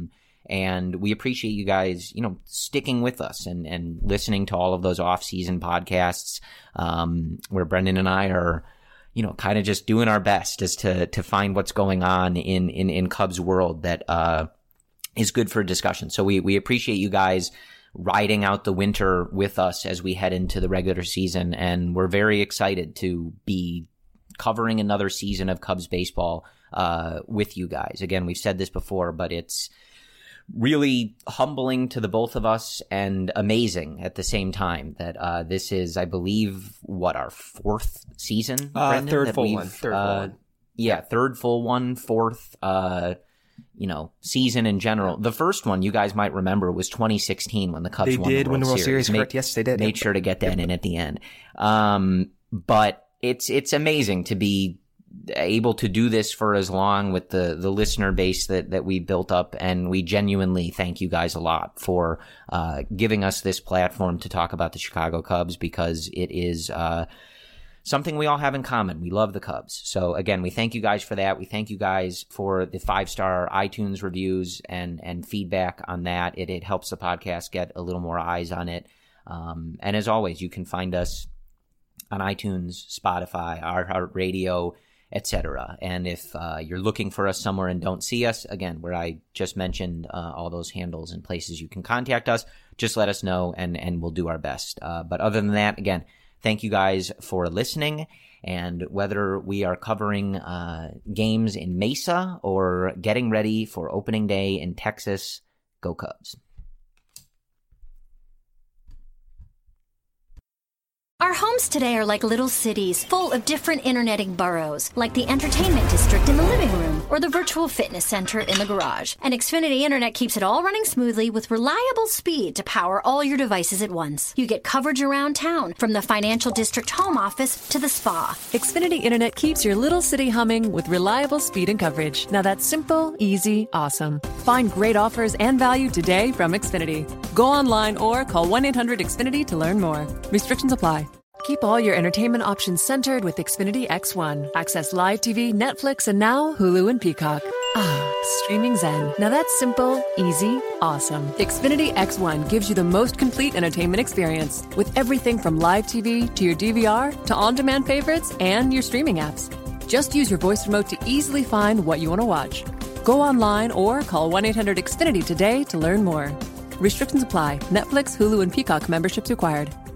S6: And we appreciate you guys, you know, sticking with us and, and listening to all of those off-season podcasts um, where Brendan and I are, you know, kind of just doing our best as to to find what's going on in in, in Cubs world that uh, is good for discussion. So we we appreciate you guys riding out the winter with us as we head into the regular season, and we're very excited to be covering another season of Cubs baseball uh, with you guys. Again, we've said this before, but it's really humbling to the both of us and amazing at the same time that uh, this is, I believe, what, our fourth season?
S7: Uh,
S6: Brendan,
S7: third full one. Third
S6: uh,
S7: full one.
S6: Yeah, third full one, fourth, uh, you know, season in general. The first one, you guys might remember, was twenty sixteen when the Cubs
S7: they
S6: won
S7: did
S6: the World
S7: win the World
S6: Series.
S7: Series, correct? Yes, they did.
S6: Made sure to get that in at the end. Um, but it's it's amazing to be able to do this for as long with the the listener base that that we built up, and we genuinely thank you guys a lot for uh giving us this platform to talk about the Chicago Cubs, because it is uh something we all have in common. We love the Cubs. So again, we thank you guys for that. We thank you guys for the five-star iTunes reviews and and feedback on that. It it helps the podcast get a little more eyes on it. Um and as always, you can find us on iTunes, Spotify, iHeartRadio, et cetera. And if uh, you're looking for us somewhere and don't see us, again, where I just mentioned uh, all those handles and places you can contact us, just let us know and, and we'll do our best. Uh, but other than that, again, thank you guys for listening. And whether we are covering uh, games in Mesa or getting ready for opening day in Texas, go Cubs.
S8: Our homes today are like little cities, full of different interneting boroughs, like the entertainment district in the living room or the virtual fitness center in the garage. And Xfinity Internet keeps it all running smoothly with reliable speed to power all your devices at once. You get coverage around town, from the financial district home office to the spa.
S9: Xfinity Internet keeps your little city humming with reliable speed and coverage. Now that's simple, easy, awesome. Find great offers and value today from Xfinity. Go online or call one eight hundred X Finity to learn more. Restrictions apply. Keep all your entertainment options centered with Xfinity X one. Access live T V, Netflix, and now Hulu and Peacock. Ah, streaming zen. Now that's simple, easy, awesome. Xfinity X one gives you the most complete entertainment experience with everything from live T V to your D V R to on-demand favorites and your streaming apps. Just use your voice remote to easily find what you want to watch. Go online or call one eight hundred X Finity today to learn more. Restrictions apply. Netflix, Hulu, and Peacock memberships required.